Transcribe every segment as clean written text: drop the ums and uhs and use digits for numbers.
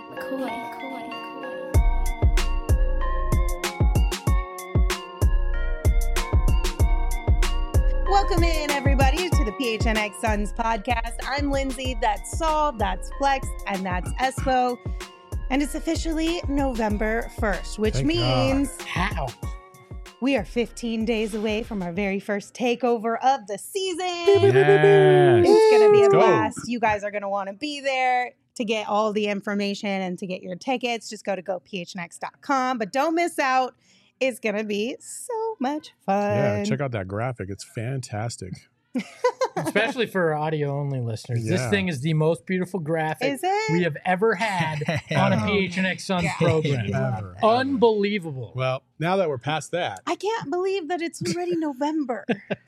Welcome in, everybody, to the PHNX Suns podcast. I'm Lindsay, that's Saul, that's Flex, and that's Espo. And it's officially November 1st, which means we are 15 days away from our very first takeover of the season. Yes. It's going to be a Let's go. blast. You guys are going to want to be there to get all the information and to get your tickets. Just go to gophnx.com, but don't miss out. It's going to be so much fun. Yeah, check out that graphic. It's fantastic. Especially for audio-only listeners. Yeah. This thing is the most beautiful graphic Is it? we have ever had on a PHNX Suns program. Ever. Unbelievable. Well, now that we're past that, I can't believe that it's already November.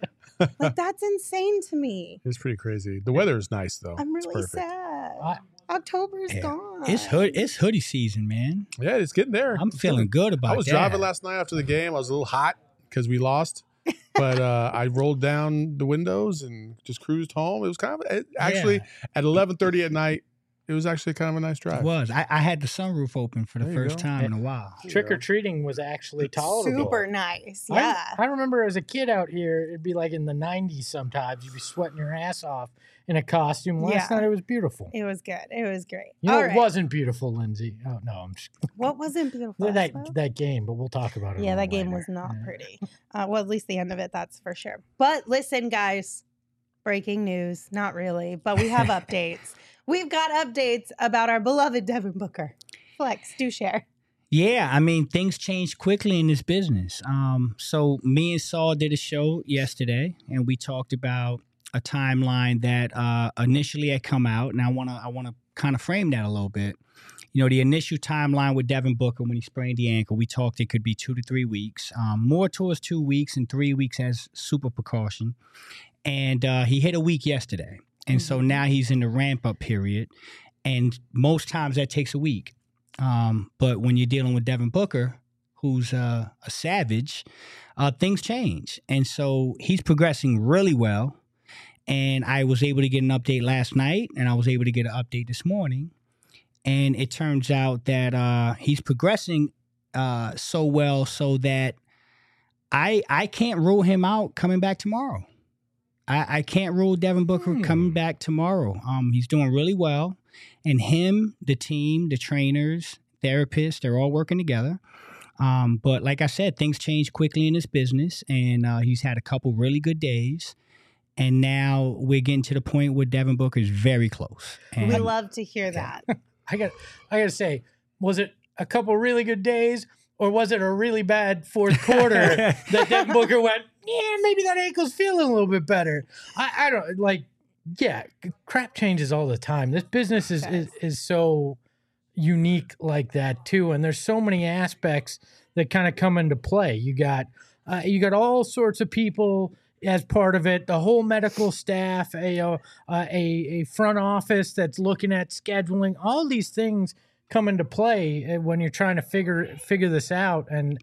Like, that's insane to me. it's pretty crazy. The weather is nice, though. I'm It's really perfect. sad. October's gone. It's hoodie season, man. Yeah, it's getting there. I'm feeling good about that. I was driving last night after the game. I was a little hot because we lost. But I rolled down the windows and just cruised home. It was kind of actually at 11:30 at night. It was actually kind of a nice drive. It was. I had the sunroof open for the There you first go. time in a while. Trick-or-treating was actually tolerable. Super nice. Yeah. I remember as a kid out here, it'd be like in the 90s sometimes. You'd be sweating your ass off in a costume. Last night it was beautiful. It was good. It was great. You know, All it right. wasn't beautiful, Lindsay. Oh, no. I'm just, What wasn't beautiful? that game, but we'll talk about it. Yeah, a that little game later. was not pretty. Well, at least the end of it, that's for sure. But listen, guys, breaking news. Not really, but we have updates. We've got updates about our beloved Devin Booker. Flex, do share. Yeah, I mean, things change quickly in this business. So me and Saul did a show yesterday, and we talked about a timeline that initially had come out, and I wanna kind of frame that a little bit. You know, the initial timeline with Devin Booker when he sprained the ankle, we talked it could be 2 to 3 weeks, more towards 2 weeks and 3 weeks as super precaution. And he hit a week yesterday. And so now he's in the ramp-up period. And most times that takes a week. But when you're dealing with Devin Booker, who's a savage, things change. And so he's progressing really well. And I was able to get an update last night, and I was able to get an update this morning. And it turns out that he's progressing so well so that I can't rule him out coming back tomorrow. I can't rule Devin Booker coming back tomorrow. He's doing really well. And him, the team, the trainers, therapists, they're all working together. But like I said, things change quickly in this business. And he's had a couple really good days. And now we're getting to the point where Devin Booker is very close. And We love to hear that. I got to say, was it a couple really good days, or was it a really bad fourth quarter that Devin Booker went, yeah, maybe that ankle's feeling a little bit better? I don't like. Yeah, crap changes all the time. This business is so unique like that too, and there's so many aspects that kind of come into play. You got all sorts of people as part of it, the whole medical staff, a front office that's looking at scheduling. All these things come into play when you're trying to figure this out, and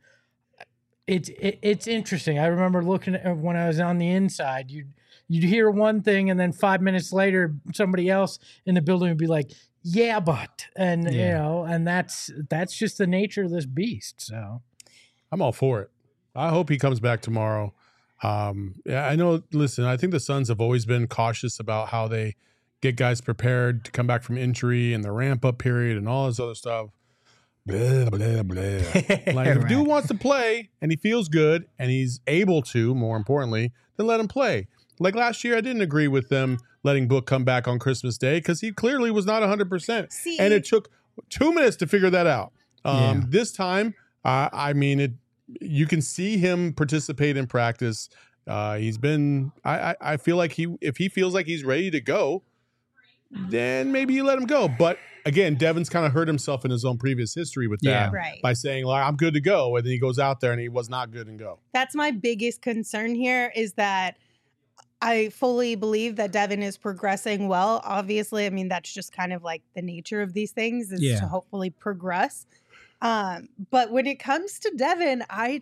it's interesting. I remember looking at when I was on the inside, you'd hear one thing, and then 5 minutes later, somebody else in the building would be like, "Yeah, but," and you know, and that's just the nature of this beast. So I'm all for it. I hope he comes back tomorrow. Yeah, I know. Listen, I think the Suns have always been cautious about how they get guys prepared to come back from injury and the ramp up period and all this other stuff. Blah, blah, blah. Like, if dude wants to play and he feels good and he's able to, more importantly, then let him play. Like last year, I didn't agree with them letting Book come back on Christmas Day because he clearly was not 100%. And it took 2 minutes to figure that out. This time, I mean, you can see him participate in practice. He's been. I feel like if he feels like he's ready to go, then maybe you let him go. But again, Devin's kind of hurt himself in his own previous history with that by saying, like, I'm good to go. And then he goes out there and he was not good and go. That's my biggest concern here is that I fully believe that Devin is progressing well. Obviously, I mean, that's just kind of like the nature of these things is to hopefully progress. But when it comes to Devin, I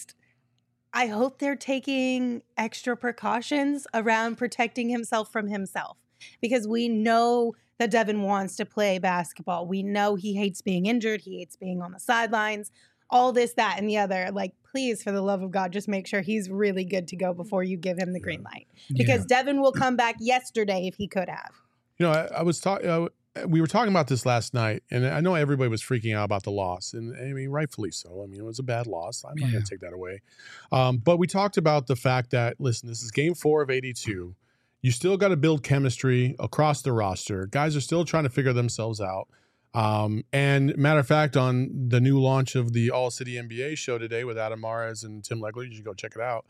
hope they're taking extra precautions around protecting himself from himself, because we know that Devin wants to play basketball. We know he hates being injured. He hates being on the sidelines, all this, that, and the other. Like, please, for the love of God, just make sure he's really good to go before you give him the green light. Because Devin will come back yesterday if he could have. You know, I was talking. We were talking about this last night, and I know everybody was freaking out about the loss, and I mean, rightfully so. I mean, it was a bad loss. I'm not going to take that away. But we talked about the fact that, listen, this is game 4 of 82. You still got to build chemistry across the roster. Guys are still trying to figure themselves out. And matter of fact, on the new launch of the All City NBA show today with Adam Mares and Tim Legler, you should go check it out.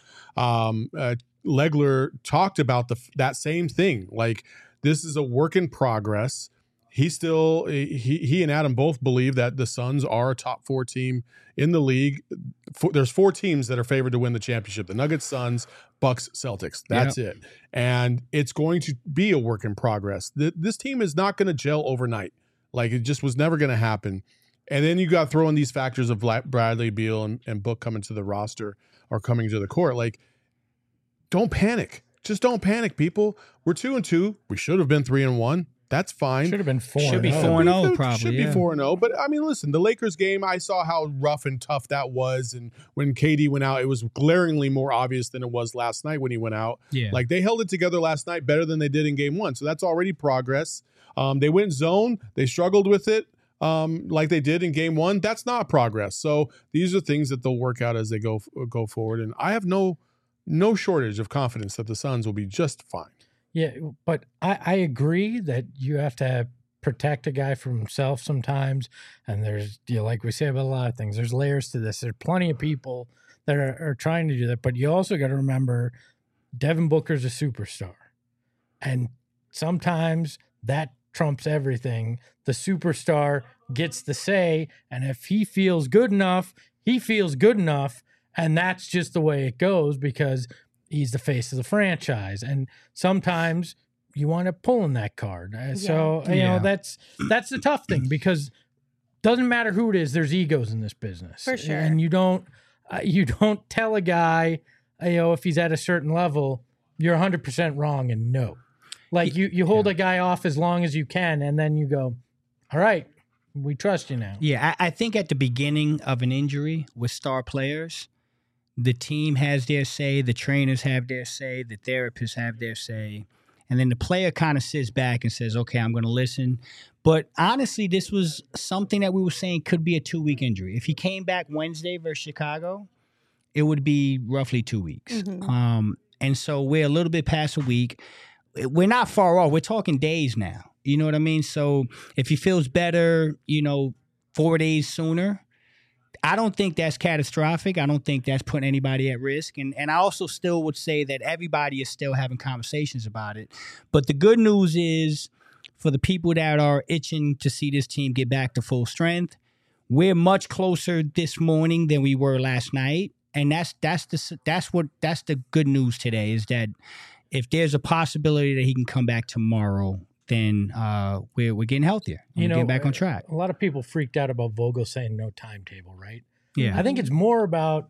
Legler talked about that same thing. Like, this is a work in progress. He and Adam both believe that the Suns are a top 4 team in the league. There's 4 teams that are favored to win the championship: the Nuggets, Suns, Bucks, Celtics. That's it. And it's going to be a work in progress. This team is not going to gel overnight. Like, it just was never going to happen. And then you got to throw in these factors of Bradley Beal and Book coming to the roster or coming to the court. Like, don't panic. Just don't panic, people. We're 2-2. We should have been 3-1. That's fine. Should have been 4-0. Should be 4-0 probably. Should be 4-0. But I mean, listen, the Lakers game, I saw how rough and tough that was. And when KD went out, it was glaringly more obvious than it was last night when he went out. Yeah. Like, they held it together last night better than they did in game 1. So that's already progress. They went zone. They struggled with it like they did in game 1. That's not progress. So these are things that they'll work out as they go forward. And I have no shortage of confidence that the Suns will be just fine. Yeah, but I agree that you have to protect a guy from himself sometimes. And there's, like we say about a lot of things, there's layers to this. There's plenty of people that are trying to do that. But you also got to remember, Devin Booker's a superstar. And sometimes that trumps everything. The superstar gets the say. And if he feels good enough, he feels good enough. And that's just the way it goes, because he's the face of the franchise. And sometimes you want to pull in that card. So, you know, that's the tough thing, because doesn't matter who it is, there's egos in this business. For sure. And you don't tell a guy, if he's at a certain level, you're 100% wrong and no. Like, you hold a guy off as long as you can, and then you go, all right, we trust you now. Yeah, I think at the beginning of an injury with star players, the team has their say, the trainers have their say, the therapists have their say, and then the player kind of sits back and says, okay, I'm going to listen. But honestly, this was something that we were saying could be a 2-week injury. If he came back Wednesday versus Chicago, it would be roughly 2 weeks. Mm-hmm. And so we're a little bit past a week. We're not far off. We're talking days now. You know what I mean? So if he feels better, 4 days sooner, I don't think that's catastrophic. I don't think that's putting anybody at risk. And I also still would say that everybody is still having conversations about it. But the good news is, for the people that are itching to see this team get back to full strength, we're much closer this morning than we were last night. And that's the good news today, is that if there's a possibility that he can come back tomorrow, then we're getting healthier. We're getting back on track. A lot of people freaked out about Vogel saying no timetable, right? Yeah. I think it's more about,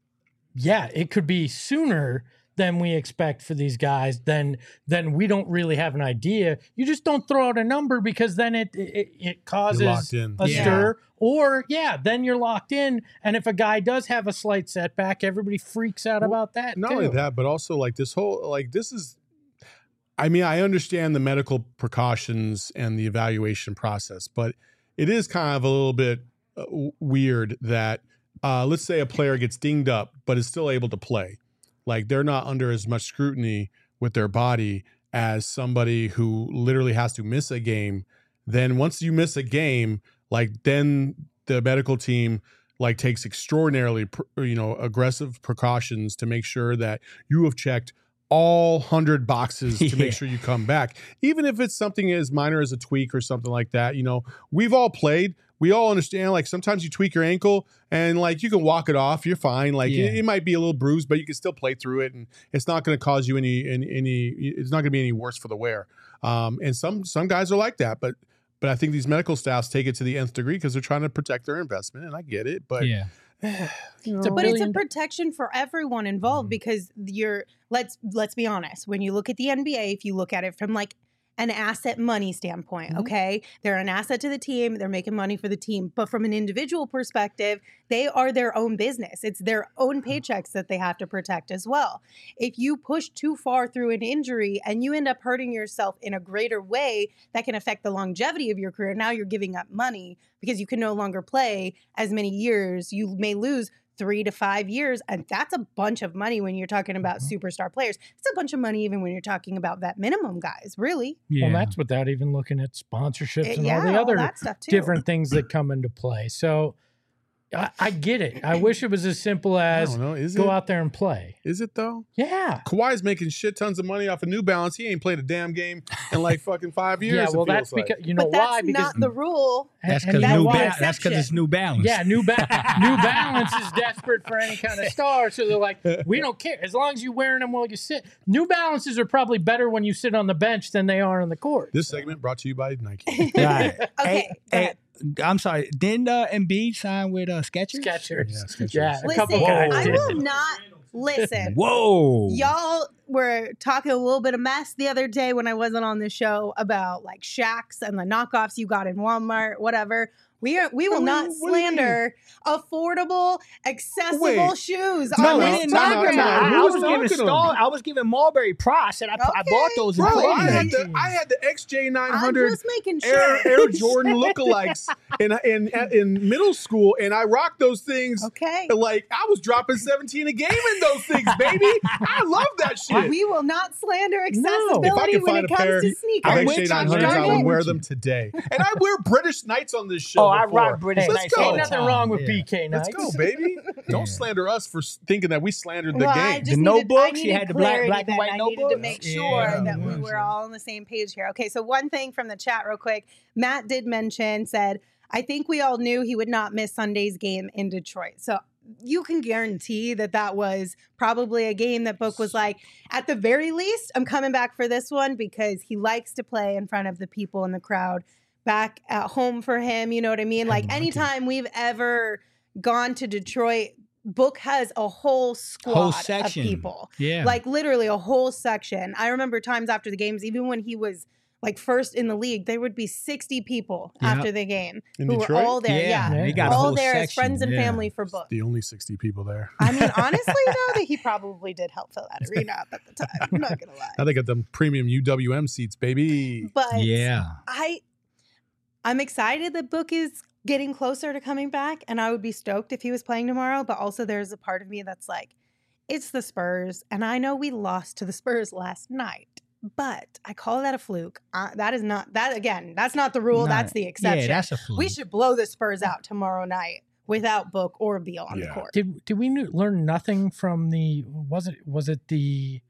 it could be sooner than we expect for these guys. Then we don't really have an idea. You just don't throw out a number, because then it causes a stir. Or, then you're locked in. And if a guy does have a slight setback, everybody freaks out about that. Not only that, but also like this whole, like, this is, I mean, I understand the medical precautions and the evaluation process, but it is kind of a little bit weird that, let's say a player gets dinged up, but is still able to play. Like, they're not under as much scrutiny with their body as somebody who literally has to miss a game. Then once you miss a game, like, then the medical team takes extraordinarily, aggressive precautions to make sure that you have checked all 100 boxes to make sure you come back. Even if it's something as minor as a tweak or something like that, we've all played. We all understand, like, sometimes you tweak your ankle and, like, you can walk it off. You're fine. Like, it might be a little bruised, but you can still play through it, and it's not going to cause you it's not going to be any worse for the wear. And some guys are like that, but I think these medical staffs take it to the nth degree because they're trying to protect their investment, and I get it. But but it's a protection for everyone involved, because let's be honest, when you look at the NBA, if you look at it from an asset money standpoint, okay? They're an asset to the team. They're making money for the team. But from an individual perspective, they are their own business. It's their own paychecks that they have to protect as well. If you push too far through an injury and you end up hurting yourself in a greater way that can affect the longevity of your career, now you're giving up money because you can no longer play as many years. You may lose 3 to 5 years. And that's a bunch of money when you're talking about superstar players. It's a bunch of money even when you're talking about vet minimum guys, really. Yeah. Well, that's without even looking at sponsorships and all the all other that stuff too. different things that come into play. So I get it. I wish it was as simple as go out there and play. Is it though? Yeah. Kawhi's making shit tons of money off of New Balance. He ain't played a damn game in like fucking 5 years. Yeah, well, that's because you know why? Because not the rule. That's because that's because it's New Balance. Yeah, New Balance is desperate for any kind of star, so they're like, we don't care as long as you're wearing them while you sit. New Balances are probably better when you sit on the bench than they are on the court. This segment brought to you by Nike. Right. Okay. Hey, I'm sorry. Didn't Embiid sign with Skechers? Skechers. Yeah, Yeah, a Listen, couple guys I did. will not listen. Whoa. Y'all were talking a little bit of mess the other day when I wasn't on the show about like Shaqs and the knockoffs you got in Walmart, whatever. We will not slander affordable, accessible shoes. No, on we this didn't talk program. about it. Who I was giving Marbury Price, and I bought those in Bro, Cleveland. I had the I'm XJ900 just making sure. Air Jordan lookalikes in middle school, and I rocked those things. Okay. Like I was dropping 17 a game in those things, baby. I love that shit. We will not slander If I accessibility could when find it a pair comes to of sneakers. XJ900s, I would wear them today. And I wear British Knights on this show. I before. rock British Let's Knights go. all Ain't the nothing time. wrong with Yeah. BK Let's Knights. go, baby. Don't slander us for thinking that we slandered the Well, I game. just The needed- notebooks? I You needed had the black clarity and then. white I needed to notebooks? make Yeah, sure that we yeah. were all on the same page here. Okay, so one thing from the chat real quick. Matt did mention, said, I think we all knew he would not miss Sunday's game in Detroit. So you can guarantee that that was probably a game that Book was like, at the very least, I'm coming back for this one because he likes to play in front of the people in the crowd back at home for him. You know what I mean? Like anytime we've ever gone to Detroit, Book has a whole squad of people. Yeah. Like literally a whole section. I remember times after the games, even when he was like first in the league, there would be 60 people after the game In who Detroit? were all there. Yeah. They got a All whole there as section. friends and Yeah. family for Book. The only 60 people there. I mean, honestly, though, that he probably did help fill that arena up at the time. I'm not going to lie. Now they got them premium UWM seats, baby. But Yeah. I'm excited that Book is getting closer to coming back, and I would be stoked if he was playing tomorrow. But also, there's a part of me that's like, it's the Spurs, and I know we lost to the Spurs last night, but I call that a fluke. That is not that again. That's not the rule. No. That's the exception. Yeah, that's a fluke. We should blow the Spurs out tomorrow night without Book or Beal on the court. Did we learn nothing from the was it the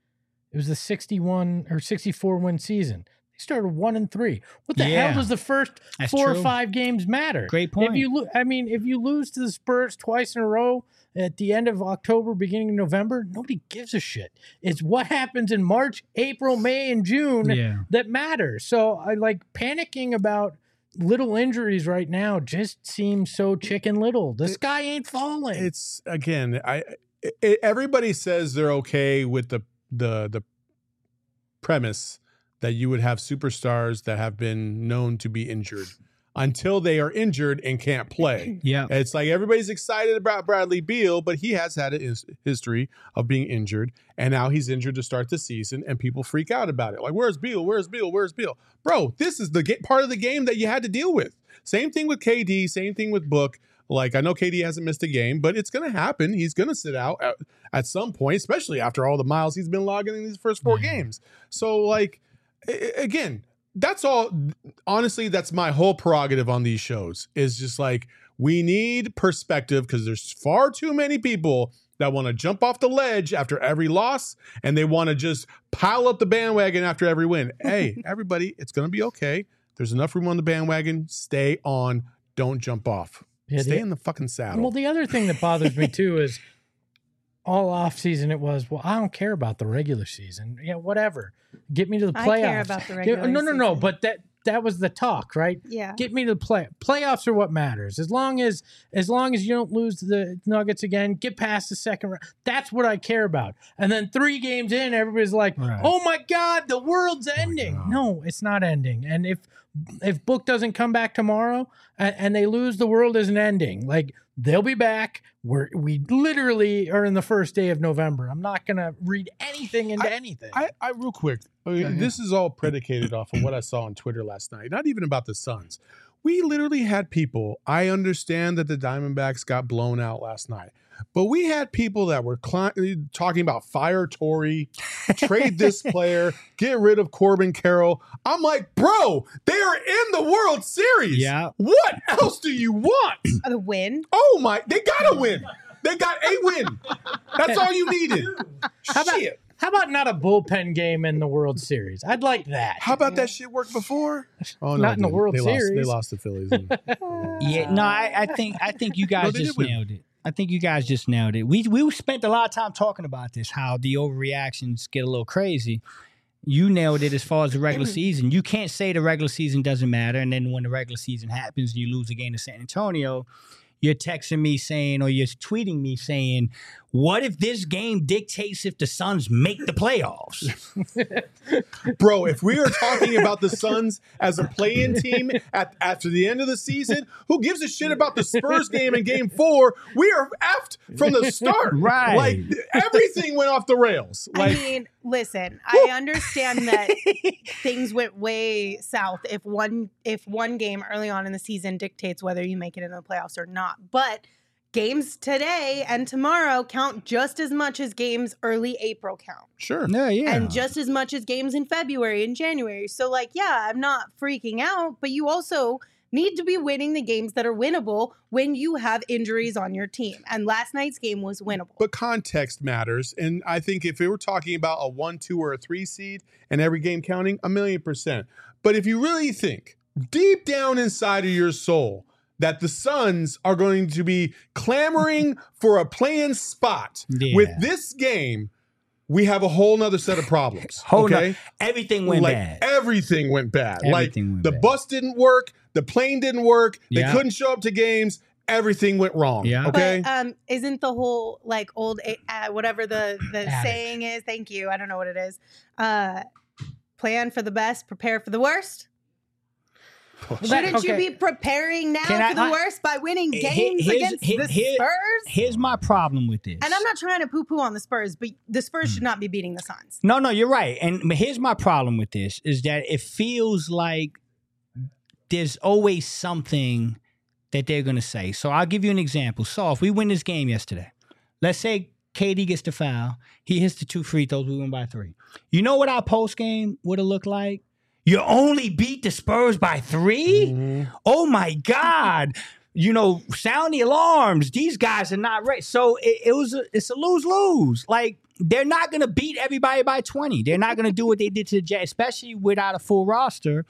61 or 64 win season? They started 1-3. What the hell does the first That's 4 or true. 5 games matter? Great point. If you lose to the Spurs twice in a row at the end of October, beginning of November, nobody gives a shit. It's what happens in March, April, May, and June that matters. So I like panicking about little injuries right now just seems so chicken little. The sky ain't falling. It's again, everybody says they're okay with the premise that you would have superstars that have been known to be injured until they are injured and can't play. Yeah. It's like everybody's excited about Bradley Beal, but he has had a history of being injured, and now he's injured to start the season, and people freak out about it. Like, where's Beal? Where's Beal? Where's Beal? Bro, this is the part of the game that you had to deal with. Same thing with KD, same thing with Book. Like, I know KD hasn't missed a game, but it's going to happen. He's going to sit out at some point, especially after all the miles he's been logging in these first 4 games. So, like, again, that's all. Honestly, that's my whole prerogative on these shows is just like, we need perspective because there's far too many people that want to jump off the ledge after every loss and they want to just pile up the bandwagon after every win. Hey, everybody, it's going to be okay. There's enough room on the bandwagon. Stay on. Don't jump off. Stay in the fucking saddle. Well, the other thing that bothers me too is all off season it was, well, I don't care about the regular season. Yeah, whatever. Get me to the playoffs. I care about the regular No. season. But that that was the talk, right? Yeah. Get me to the playoffs are what matters. As long as you don't lose to the Nuggets again, get past the second round. That's what I care about. And then 3 games in, everybody's like, Right. "Oh my God, the world's ending." God. No, it's not ending. And if Book doesn't come back tomorrow and they lose, the world isn't ending. Like, they'll be back. We literally are in the first day of November. I'm not gonna read anything into anything. I real quick. This is all predicated off of what I saw on Twitter last night. Not even about the Suns. We literally had people. I understand that the Diamondbacks got blown out last night, but we had people that were talking about fire Torrey, trade this player, get rid of Corbin Carroll. I'm like, bro, they are in the World Series. Yeah. What else do you want? The win. Oh my, they got to win. They got a win. That's all you needed. Shit. How about not a bullpen game in the World Series? I'd like that. How about that shit worked before? Oh, Not in the World they Series. They lost the Phillies. Yeah, no, I think you guys they just did win. nailed it. I think you guys just nailed it. We spent a lot of time talking about this, how the overreactions get a little crazy. You nailed it as far as the regular season. You can't say the regular season doesn't matter, and then when the regular season happens and you lose a game to San Antonio, you're texting me saying, or you're tweeting me saying, what if this game dictates if the Suns make the playoffs? Bro, if we are talking about the Suns as a play-in team after the end of the season, who gives a shit about the Spurs game in Game 4? We are effed from the start. Right. Like, everything went off the rails. Like, I mean, listen, I understand that things went way south if one game early on in the season dictates whether you make it in the playoffs or not. But games today and tomorrow count just as much as games early April count. sure. Yeah. And just as much as games in February and January. So, like, yeah, I'm not freaking out, but you also need to be winning the games that are winnable when you have injuries on your team. And last night's game was winnable. But context matters. And I think if we were talking about a 1, 2, or a 3 seed and every game counting, 1,000,000%. But if you really think deep down inside of your soul that the Suns are going to be clamoring for a play-in spot with this game, we have a whole nother set of problems. Okay? Everything went bad. Everything went bad. Everything went the bad. bus didn't work. The plane didn't work. They Yeah. couldn't show up to games. Everything went wrong. Yeah. Okay. But isn't the whole like old whatever the Adage. saying is? Thank you. I don't know what it is. Plan for the best, prepare for the worst. Shouldn't you be preparing now Can for the worst by winning games against the Spurs? Here's my problem with this. And I'm not trying to poo-poo on the Spurs, but the Spurs should not be beating the Suns. No, you're right. And here's my problem with this is that it feels like there's always something that they're going to say. So I'll give you an example. So if we win this game yesterday, let's say KD gets the foul. He hits the 2 free throws. We win by 3. You know what our post game would have looked like? You only beat the Spurs by 3? Mm-hmm. Oh my God. Sound the alarms. These guys are not ready. So it's a lose-lose. Like, they're not going to beat everybody by 20. They're not going to do what they did to the Jazz, especially without a full roster.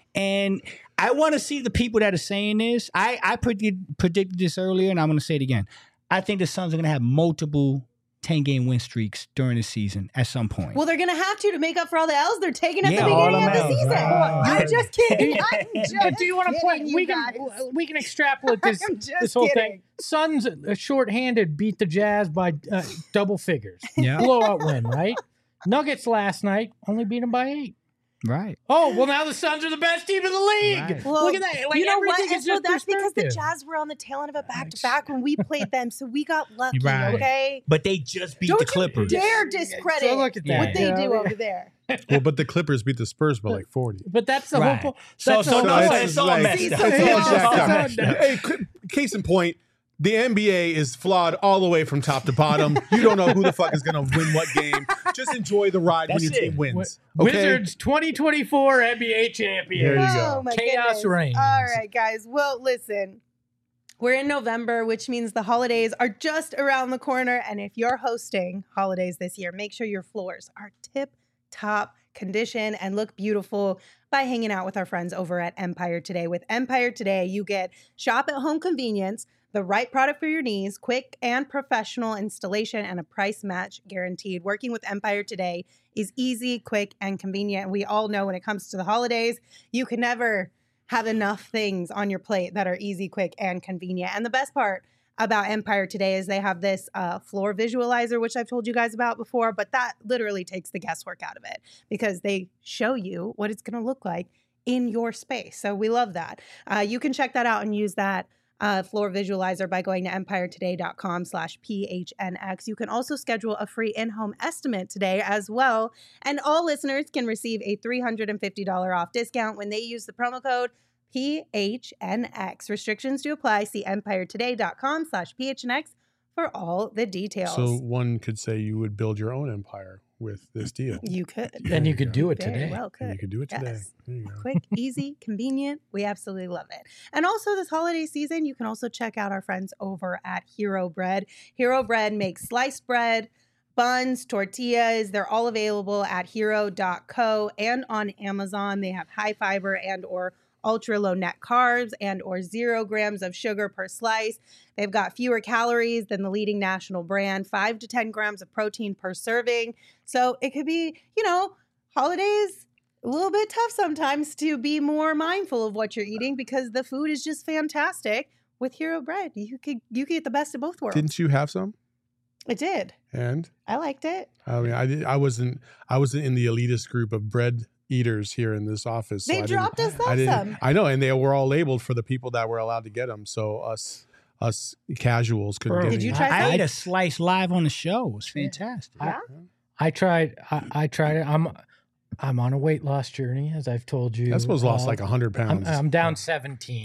And I want to see the people that are saying this. I predicted this earlier, and I'm going to say it again. I think the Suns are going to have multiple 10-game win streaks during the season at some point. Well, they're going to have to make up for all the L's they're taking at Yeah, the all beginning of them the L's, season. right. I'm just kidding. But do you want to play? kidding, We you we can extrapolate this I'm just this whole kidding. thing. Suns shorthanded beat the Jazz by double figures. Yeah. Blowout win, right? Nuggets last night only beat them by 8. Right. Oh, well, now the Suns are the best team in the league. Right. Well, Look at that. Like, you know what? everything is So just that's because the perspective. Jazz were on the tail end of a back-to-back when we played them, so we got lucky, Right. okay? But they just beat Don't the you Clippers. dare discredit So look at that. what they You know, do over there. Well, but the Clippers beat the Spurs by like 40. But that's the Right. whole point. So the whole no, point. it's all like- messed See, up. so It's all Yeah. jacked So- up. so- Hey, case in point, the NBA is flawed all the way from top to bottom. You don't know who the fuck is going to win what game. Just enjoy the ride when That's your team it. wins. Okay? Wizards 2024 NBA champion. There you Oh go. my Chaos goodness. reigns. All right, guys. Well, listen. We're in November, which means the holidays are just around the corner. And if you're hosting holidays this year, make sure your floors are tip-top condition and look beautiful by hanging out with our friends over at Empire Today. With Empire Today, you get shop at home convenience, The right product for your needs, quick and professional installation, and a price match guaranteed. Working with Empire today is easy, quick, and convenient. We all know when it comes to the holidays, you can never have enough things on your plate that are easy, quick, and convenient. And the best part about Empire today is they have this floor visualizer, which I've told you guys about before, but that literally takes the guesswork out of it because they show you what it's going to look like in your space. So we love that. You can check that out and use that floor visualizer by going to empiretoday.com/PHNX. You can also schedule a free in-home estimate today as well. And all listeners can receive a $350 off discount when they use the promo code PHNX. Restrictions do apply. See empiretoday.com/PHNX for all the details. So one could say you would build your own empire with this deal. You could. And you could do it Very today. well could. And you could do it today. Yes. There you go. Quick, easy, convenient. We absolutely love it. And also this holiday season, you can also check out our friends over at Hero Bread. Hero Bread makes sliced bread, buns, tortillas. They're all available at hero.co and on Amazon. They have high fiber and or ultra low net carbs and or 0 grams of sugar per slice. They've got fewer calories than the leading national brand, 5 to 10 grams of protein per serving. So it could be, holidays, a little bit tough sometimes to be more mindful of what you're eating because the food is just fantastic. With Hero Bread, you could get the best of both worlds. Didn't you have some? I did. And I liked it. I mean, I wasn't in the elitist group of bread eaters here in this office. So They dropped us off some. I know, and they were all labeled for the people that were allowed to get them. So us casuals couldn't get Did any. you try I ate some? a slice live on the show. It was fantastic. Yeah. I tried it. I'm on a weight loss journey, as I've told you. That's supposed to lost like 100 pounds. I'm down 17.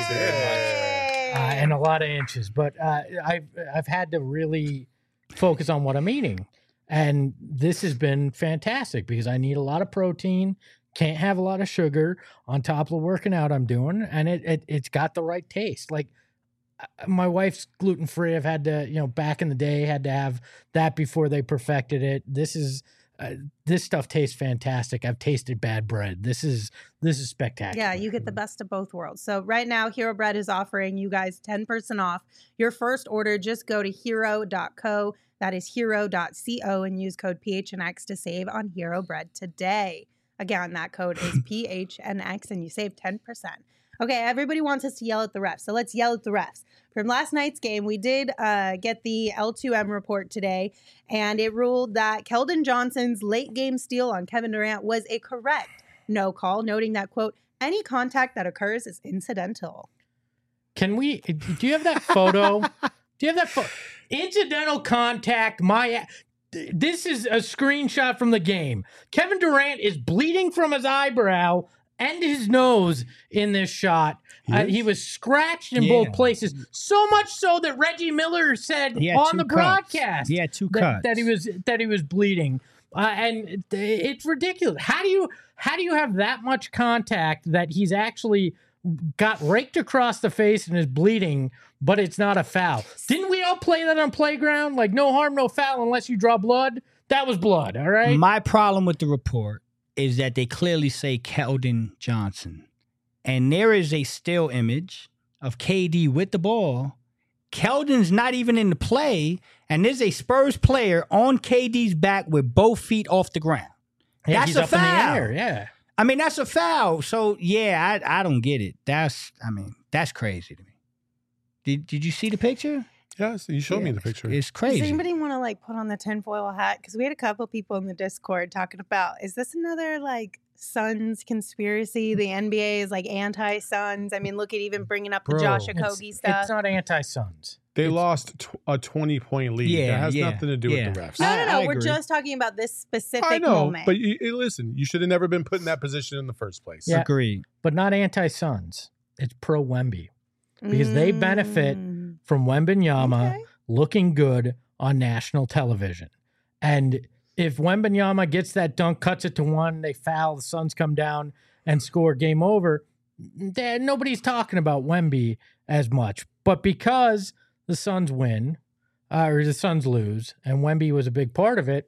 And a lot of inches, but I've had to really focus on what I'm eating, and this has been fantastic because I need a lot of protein, can't have a lot of sugar on top of the working out I'm doing, and it's got the right taste. Like my wife's gluten free. I've had to, back in the day, had to have that before they perfected it. This stuff tastes fantastic. I've tasted bad bread. This is spectacular. Yeah, you get the best of both worlds. So right now, Hero Bread is offering you guys 10% off your first order. Just go to hero.co. That is hero.co and use code PHNX to save on Hero Bread today. Again, that code is PHNX and you save 10%. Okay, everybody wants us to yell at the refs, so let's yell at the refs. From last night's game, we did get the L2M report today, and it ruled that Keldon Johnson's late game steal on Kevin Durant was a correct no call, noting that, quote, any contact that occurs is incidental. Do you have that photo? Incidental contact, this is a screenshot from the game. Kevin Durant is bleeding from his eyebrow and his nose in this shot. He was scratched in both places, so much so that Reggie Miller said on the broadcast, he had two cuts. that he was bleeding, and it's ridiculous. How do you have that much contact that he's actually got raked across the face and is bleeding, but it's not a foul? Didn't we all play that on Playground? Like no harm, no foul unless you draw blood. That was blood. All right. My problem with the report is that they clearly say Keldon Johnson. And there is a still image of KD with the ball. Keldon's not even in the play, and there's a Spurs player on KD's back with both feet off the ground. Yeah, That's he's a up in the foul. air, yeah. I mean, that's a foul. So, yeah, I don't get it. That's crazy to me. Did you see the picture? Yes, you showed me the picture. It's crazy. Does anybody want to put on the tinfoil hat? Because we had a couple people in the Discord talking about, is this another Suns conspiracy? The NBA is anti-Suns. I mean, look at even bringing up the Josh Okogie stuff. It's not anti-Suns. They lost a 20-point lead. Yeah, that has yeah, nothing to do with the refs. No. I We're agree. just talking about this specific I know, moment. but listen, you should have never been put in that position in the first place. Yeah. Agreed. But not anti-Suns. It's pro-Wemby. Because they benefit from Wembanyama Okay. looking good on national television. And if Wembanyama gets that dunk, cuts it to one, they foul, the Suns come down and score, game over, nobody's talking about Wemby as much. But because the Suns win, or the Suns lose, and Wemby was a big part of it,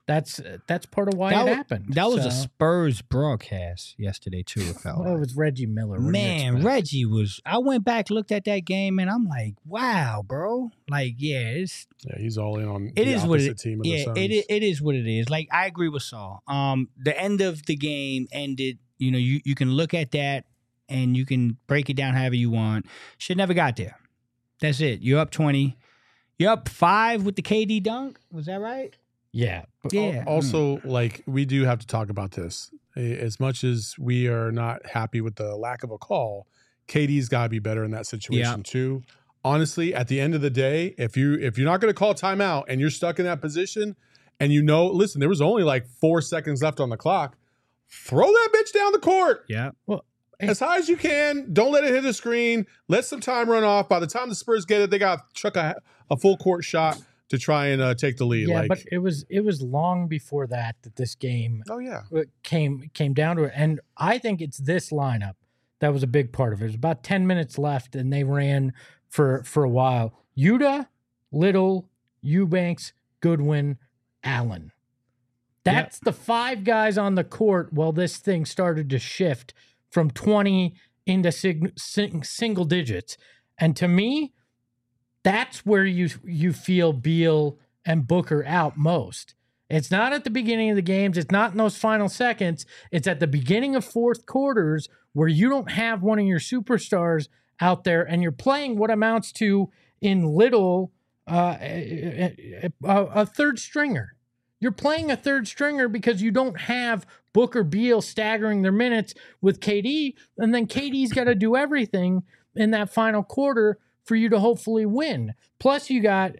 That's part of why it happened. That was a Spurs broadcast yesterday too. It felt Well, it was Reggie Miller. What do you Man, expect? Reggie was. I went back, looked at that game, and I'm like, wow, bro. Like, yeah, he's all in on it the is what opposite it, team of yeah, the Suns. it is what it is. Like, I agree with Saul. The end of the game ended. You know, you can look at that and you can break it down however you want. Should never got there. That's it. You're up 20. You're up 5 with the KD dunk. Was that right? Yeah. Yeah. Also, like, we do have to talk about this. As much as we are not happy with the lack of a call, KD's got to be better in that situation too. Honestly, at the end of the day, if you're not going to call timeout and you're stuck in that position, and listen, there was only like 4 seconds left on the clock, throw that bitch down the court. Yeah. Well, as high as you can. Don't let it hit the screen. Let some time run off. By the time the Spurs get it, they got to chuck a full court shot to try and take the lead. Yeah, but it was long before that this game came down to it. And I think it's this lineup that was a big part of it. It was about 10 minutes left, and they ran for a while. Yuta, Little, Eubanks, Goodwin, Allen. That's the 5 guys on the court while this thing started to shift from 20 into single digits. And to me, that's where you feel Beal and Booker out most. It's not at the beginning of the games. It's not in those final seconds. It's at the beginning of fourth quarters where you don't have one of your superstars out there and you're playing what amounts to in Little a third stringer. You're playing a third stringer because you don't have Booker, Beal staggering their minutes with KD, and then KD's got to do everything in that final quarter for you to hopefully win. Plus, you got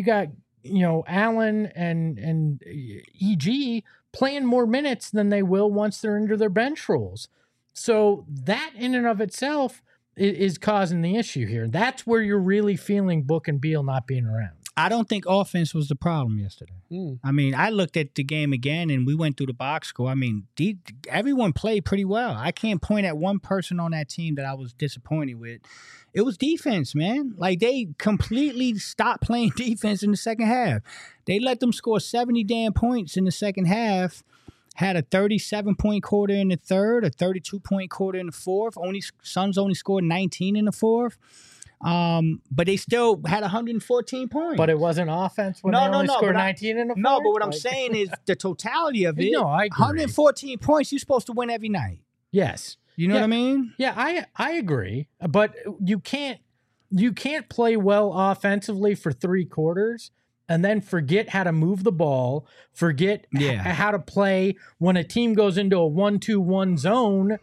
Allen and EG playing more minutes than they will once they're into their bench roles. So that in and of itself is causing the issue here. That's where you're really feeling Book and Beal not being around. I don't think offense was the problem yesterday. I mean, I looked at the game again, and we went through the box score. I mean, everyone played pretty well. I can't point at one person on that team that I was disappointed with. It was defense, man. Like, they completely stopped playing defense in the second half. They let them score 70 damn points in the second half, had a 37-point quarter in the third, a 32-point quarter in the fourth. Suns only scored 19 in the fourth. But they still had 114 points. But it wasn't offense when they only scored 19 in the fourth? No, but what I'm saying is the totality of it. No, I agree. 114 points, you're supposed to win every night. Yes. You know what I mean? Yeah, I agree. But you can't play well offensively for 3 quarters and then forget how to move the ball, forget how to play when a team goes into a 1-2-1 zone.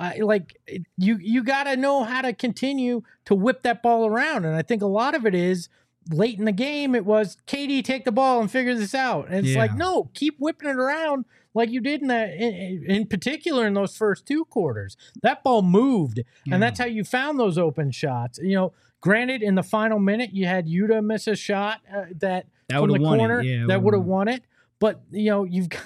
You got to know how to continue to whip that ball around. And I think a lot of it is late in the game, it was KD, take the ball and figure this out. And it's like, no, keep whipping it around like you did in particular in those first 2 quarters. That ball moved, and that's how you found those open shots. You know, granted, in the final minute, you had Yuta miss a shot that from the corner that would have won it. But, you know,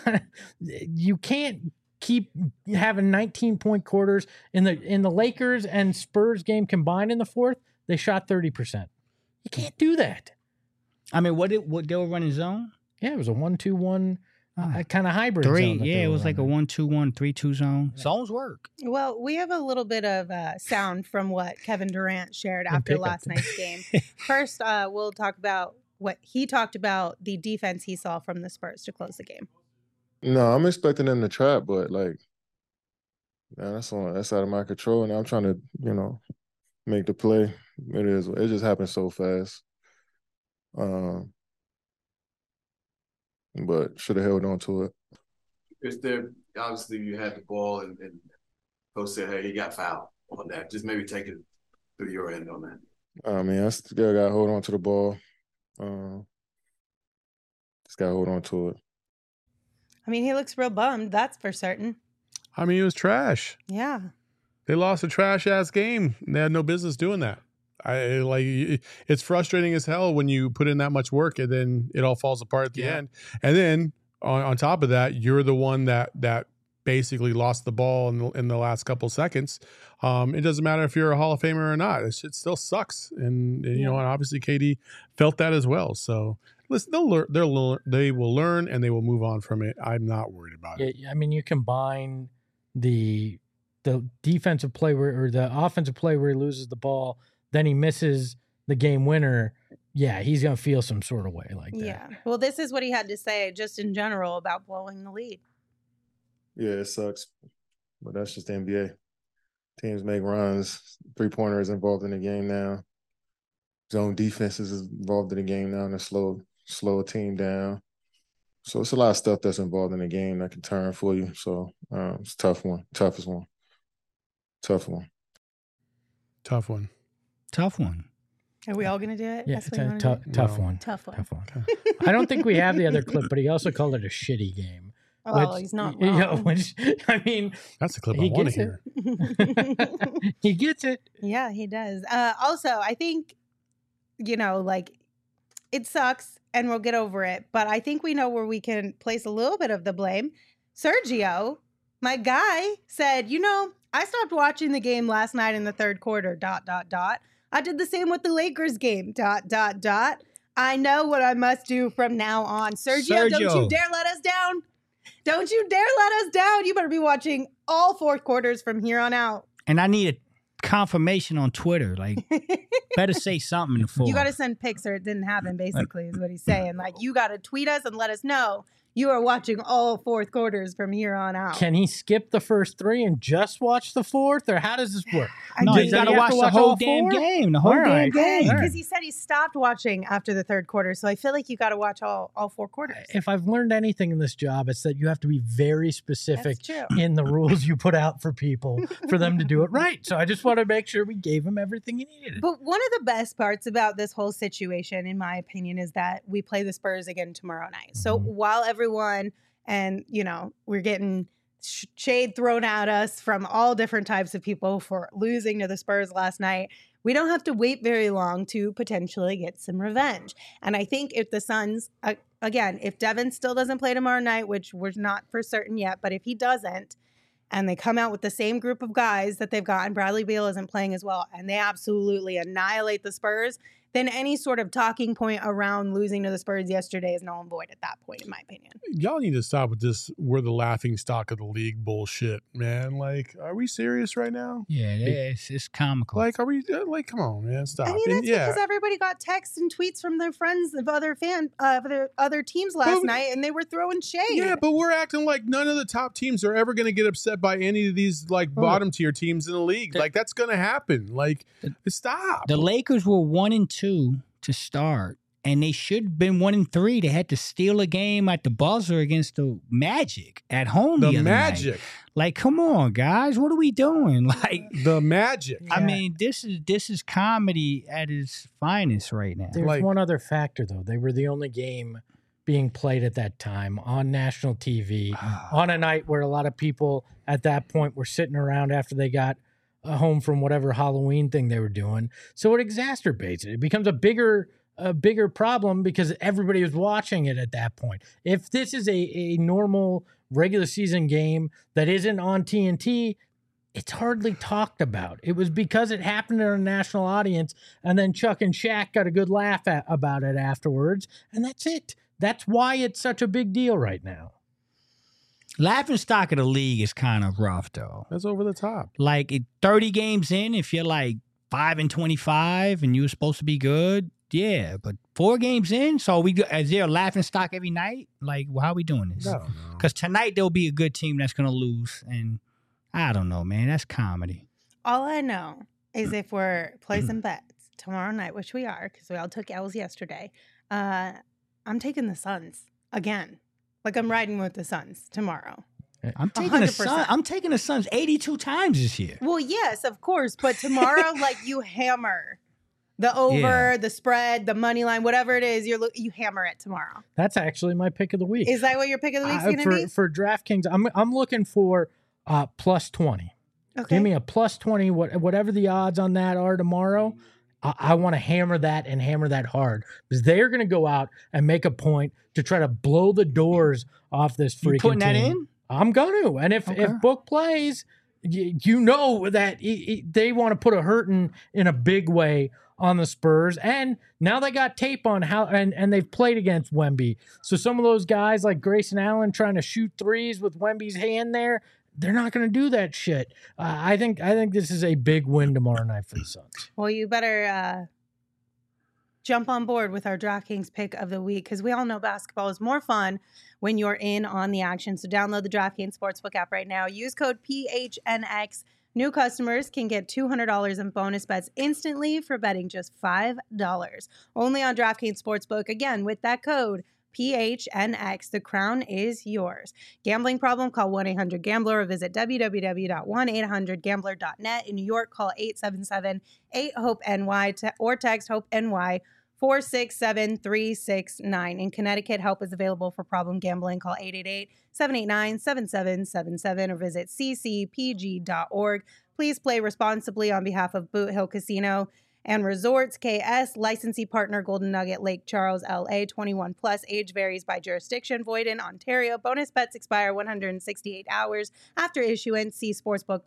you can't keep having 19-point quarters. In the Lakers and Spurs game combined in the fourth, they shot 30%. You can't do that. I mean, what they were running zone? Yeah, it was a 1-2-1 kind of hybrid 3. zone. Yeah, it was like a 1-2-1, 3-2 zone. Yeah. Zones work. Well, we have a little bit of sound from what Kevin Durant shared after last night's game. First, we'll talk about what he talked about, the defense he saw from the Spurs to close the game. No, I'm expecting them to trap, but like, man, that's out of my control. And I'm trying to, make the play. It just happened so fast. But should have held on to it. Is there, obviously you had the ball and Coach said, hey, he got fouled on that. Just maybe take it through your end on that. I mean, I still got to hold on to the ball. Just got to hold on to it. I mean, he looks real bummed. That's for certain. I mean, it was trash. Yeah. They lost a trash-ass game. They had no business doing that. It's frustrating as hell when you put in that much work and then it all falls apart at the end. And then on top of that, you're the one that basically lost the ball in the last couple seconds. It doesn't matter if you're a Hall of Famer or not. It still sucks. And you know, and obviously KD felt that as well. So listen, they will learn and they will move on from it. I'm not worried about it. I mean, you combine the defensive play or the offensive play where he loses the ball, then he misses the game winner. Yeah, he's going to feel some sort of way like that. Yeah. Well, this is what he had to say just in general about blowing the lead. Yeah, it sucks, but that's just the NBA. Teams make runs. Three-pointer is involved in the game now. Zone defense is involved in the game now, and to slow a team down. So it's a lot of stuff that's involved in the game that can turn for you. So it's a tough one. Toughest one. Tough one. Tough one. Tough one. Are we all going to do it? Yeah, That's what you wanna do? tough one. Tough one. Tough one. I don't think we have the other clip, but he also called it a shitty game. Oh, he's not You wrong. know, which, I mean, That's the clip I he want to gets it. hear. He gets it. Yeah, he does. Also, I think, you know, like, it sucks and we'll get over it. But I think we know where we can place a little bit of the blame. Sergio, my guy, said, you know, I stopped watching the game last night in the third quarter, ... I did the same with the Lakers game, ... I know what I must do from now on. Sergio, don't you dare let us down. Don't you dare let us down. You better be watching all fourth quarters from here on out. And I need a confirmation on Twitter. Like, better say something in the fourth. You got to send pics or it didn't happen, basically, is what he's saying. Like, you got to tweet us and let us know you are watching all fourth quarters from here on out. Can he skip the first three and just watch the fourth, or how does this work? No, you got to watch the whole all damn four? game. The whole All damn right. game. Because he said he stopped watching after the third quarter. So I feel like you got to watch all four quarters. If I've learned anything in this job, it's that you have to be very specific That's true. in the rules you put out for people for them to do it right. So I just want to make sure we gave him everything he needed. But one of the best parts about this whole situation, in my opinion, is that we play the Spurs again tomorrow night. So while everyone, and, you know, we're getting shade thrown at us from all different types of people for losing to the Spurs last night, we don't have to wait very long to potentially get some revenge. And I think if the Suns, again, if Devin still doesn't play tomorrow night, which we're not for certain yet, but if he doesn't, and they come out with the same group of guys that they've got, and Bradley Beal isn't playing as well, and they absolutely annihilate the Spurs, then any sort of talking point around losing to the Spurs yesterday is null and void at that point, in my opinion. Y'all need to stop with this. We're the laughing stock of the league bullshit, man. Like, are we serious right now? Yeah, it's comical. Like, are we like? Come on, man, stop. I mean, And that's because everybody got texts and tweets from their friends of other other teams last night, and they were throwing shade. Yeah, but we're acting like none of the top teams are ever going to get upset by any of these like bottom tier teams in the league. Like, that's going to happen. Like, stop. The Lakers were 1-2 to start, and they should have been 1-3. They had to steal a game at the buzzer against the Magic at home. The other Magic. night. Like, come on, guys, what are we doing? Like, The Magic. I mean, this is comedy at its finest right now. There's Like- one other factor, though. They were the only game being played at that time on national TV on a night where a lot of people at that point were sitting around after they got home from whatever Halloween thing they were doing. So it exacerbates it. It becomes a bigger problem because everybody was watching it at that point. If this is a normal regular season game that isn't on TNT, it's hardly talked about. It was because it happened in a national audience, and then Chuck and Shaq got a good laugh about it afterwards, and that's it. That's why it's such a big deal right now. Laughing stock of the league is kind of rough, though. That's over the top. Like, 30 games in, if you're like 5-25 and you were supposed to be good, yeah. But 4 games in, so is there a laughing stock every night? Like, well, how are we doing this? No. Because tonight there'll be a good team that's going to lose, and I don't know, man. That's comedy. All I know is if we're placing bets tomorrow night, which we are, because we all took L's yesterday, I'm taking the Suns again. Like, I'm riding with the Suns tomorrow. I'm taking the 100%. Suns. I'm taking the Suns 82 times this year. Well, yes, of course. But tomorrow, like, you hammer the over, the spread, the money line, whatever it is, you hammer it tomorrow. That's actually my pick of the week. Is that what your pick of the week's going to be? For DraftKings, I'm looking for plus 20. Okay. Give me a plus 20, whatever the odds on that are tomorrow. I want to hammer that and hammer that hard because they're going to go out and make a point to try to blow the doors off this freaking You putting that team. in? I'm going to. And if Book plays, you know that they want to put a hurting in a big way on the Spurs. And now they got tape on how and they've played against Wemby. So some of those guys like Grayson Allen trying to shoot threes with Wemby's hand there, they're not going to do that shit. I think this is a big win tomorrow night for the Suns. Well, you better jump on board with our DraftKings pick of the week, because we all know basketball is more fun when you're in on the action. So download the DraftKings Sportsbook app right now. Use code PHNX. New customers can get $200 in bonus bets instantly for betting just $5. Only on DraftKings Sportsbook. Again, with that code PHNX, the crown is yours. Gambling problem? Call 1-800-GAMBLER or visit www.1800gambler.net. In New York, call 877-8-HOPE-NY or text HOPE-NY 467-369. In Connecticut, help is available for problem gambling. Call 888-789-7777 or visit ccpg.org. Please play responsibly on behalf of Boot Hill Casino and Resorts, KS, licensee partner Golden Nugget, Lake Charles, LA, 21 plus, age varies by jurisdiction, void in Ontario. Bonus bets expire 168 hours after issuance. See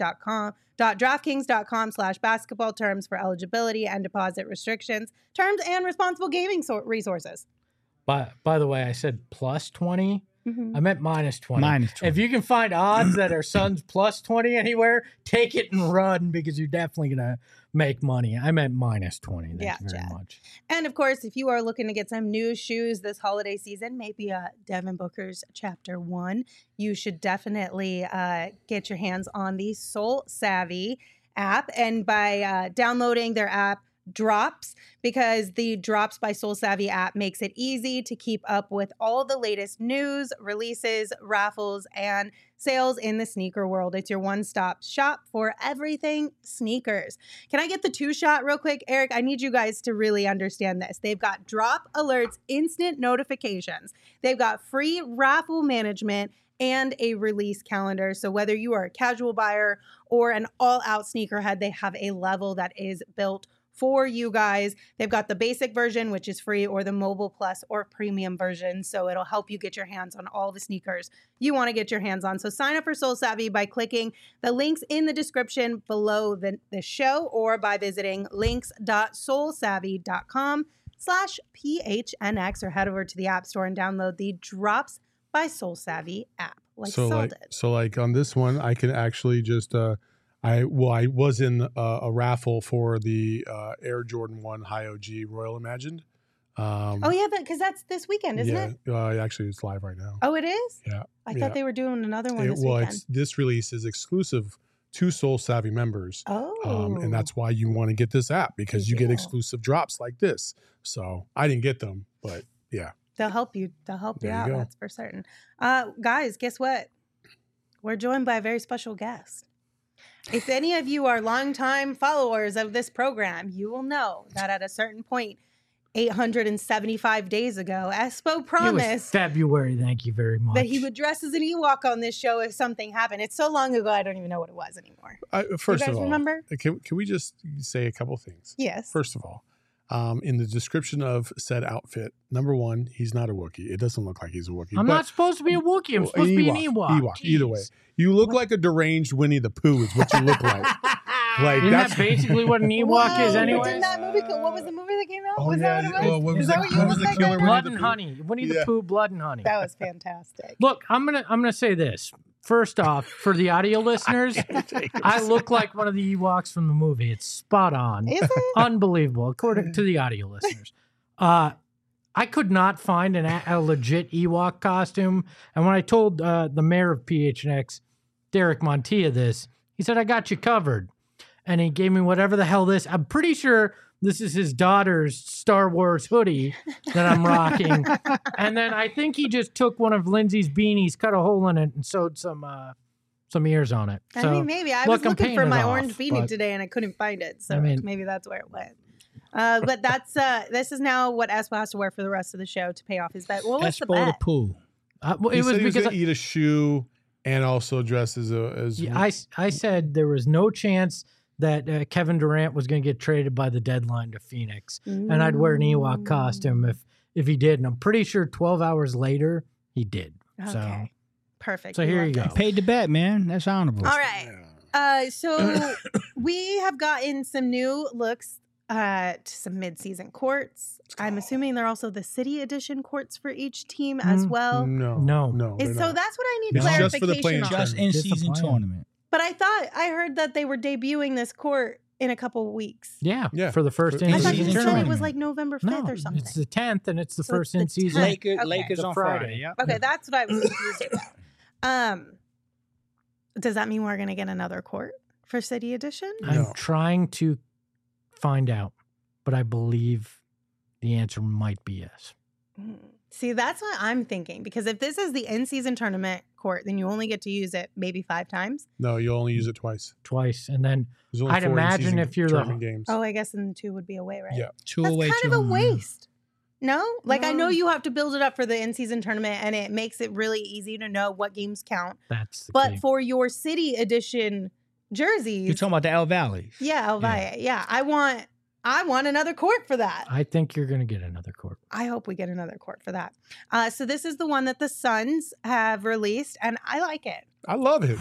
sportsbook.com.draftkings.com/basketball terms for eligibility and deposit restrictions, terms and responsible gaming resources. By the way, I said plus 20. I meant minus 20. Minus 20. If you can find odds that are Suns plus 20 anywhere, take it and run, because you're definitely going to make money. I meant minus 20. Thank you very much. And of course, if you are looking to get some new shoes this holiday season, maybe Devin Booker's Chapter 1, you should definitely get your hands on the Soul Savvy app. And by downloading their app, Drops, because the Drops by Soul Savvy app makes it easy to keep up with all the latest news, releases, raffles, and sales in the sneaker world. It's your one-stop shop for everything sneakers. Can I get the 2-shot real quick? Eric, I need you guys to really understand this. They've got drop alerts, instant notifications. They've got free raffle management and a release calendar. So whether you are a casual buyer or an all-out sneakerhead, they have a level that is built for you guys. They've got the basic version, which is free, or the mobile plus or premium version. So it'll help you get your hands on all the sneakers you want to get your hands on. So sign up for Soul Savvy by clicking the links in the description below the show, or by visiting links.soulsavvy.com/PHNX, or head over to the App Store and download the Drops by Soul Savvy app. So like on this one, I can actually just I was in a raffle for the Air Jordan 1 High OG Royal Imagined. Because that's this weekend, isn't it? Actually, it's live right now. Oh, it is? Yeah. I thought they were doing another one this weekend. This release is exclusive to Soul Savvy members. And that's why you want to get this app, because you get exclusive drops like this. So I didn't get them, but yeah. They'll help you. They'll help you out. Go. That's for certain. Guys, guess what? We're joined by a very special guest. If any of you are longtime followers of this program, you will know that at a certain point, 875 days ago, Espo promised it was February, thank you very much, that he would dress as an Ewok on this show if something happened. It's so long ago, I don't even know what it was anymore. First you guys of all, remember? Can we just say a couple things? Yes. First of all, in the description of said outfit, number one, he's not a Wookiee. It doesn't look like he's a Wookiee. I'm not supposed to be a Wookiee. I'm supposed to be an Ewok. Ewok. Either way, you look like a deranged Winnie the Pooh is what you look like. Isn't that basically what an Ewok is anyway? Didn't that movie, what was the movie that came out? Oh, was yeah. that what it was? What Is that what you look like? killer Blood and Honey. Winnie the Pooh, Blood and Honey. That was fantastic. Look, I'm gonna say this. First off, for the audio listeners, I look like one of the Ewoks from the movie. It's spot on. Is it? Unbelievable, according to the audio listeners. I could not find a legit Ewok costume. And when I told the mayor of PHNX, Derek Montilla, this, he said, I got you covered. And he gave me whatever the hell this. I'm pretty sure this is his daughter's Star Wars hoodie that I'm rocking. And then I think he just took one of Lindsay's beanies, cut a hole in it, and sewed some ears on it. I mean, maybe. I was looking for my orange beanie today, and I couldn't find it. So maybe that's where it went. But that's this is now what Espo has to wear for the rest of the show to pay off his bet. Well, what's the bet? The Pooh. It was because he eat a shoe and also dress as I said there was no chance that Kevin Durant was going to get traded by the deadline to Phoenix, and I'd wear an Ewok costume if he did. And I'm pretty sure 12 hours later he did. Okay. So Perfect. So here you go. Paid the bet, man. That's honorable. All right. So we have gotten some new looks to some mid-season courts. I'm assuming they're also the city edition courts for each team as well. No. And so that's what I need It's just for the clarification playing on. Just in season tournament. But I heard that they were debuting this court in a couple weeks. Yeah. Yeah. For the first I I thought in-season you said it tournament. was like November 5th No, or something. it's the 10th, and it's the So first it's the in-season. 10th. Lakers Okay. on Friday. Friday. Yep. Okay, that's what I was confused about. Does that mean we're going to get another court for City Edition? No. I'm trying to find out, but I believe the answer might be yes. See, that's what I'm thinking. Because if this is the in-season tournament court, then you only get to use it maybe 5 times. No, you'll only use it twice. Twice. And then There's only I'd 4 imagine in-season if you're the- tournament games. Oh, I guess then 2 would be away, right? Yeah. Two That's away, kind two of a home. waste. No? Like, I know No. you have to build it up for the in-season tournament, and it makes it really easy to know what games count. that's the But key. for your City Edition jerseys, You're talking about the El Valleys. yeah, El Valle, yeah, I want another court for that. I think you're going to get another court. I hope we get another court for that. So this is the one that the Suns have released, and I like it. I love it. I'm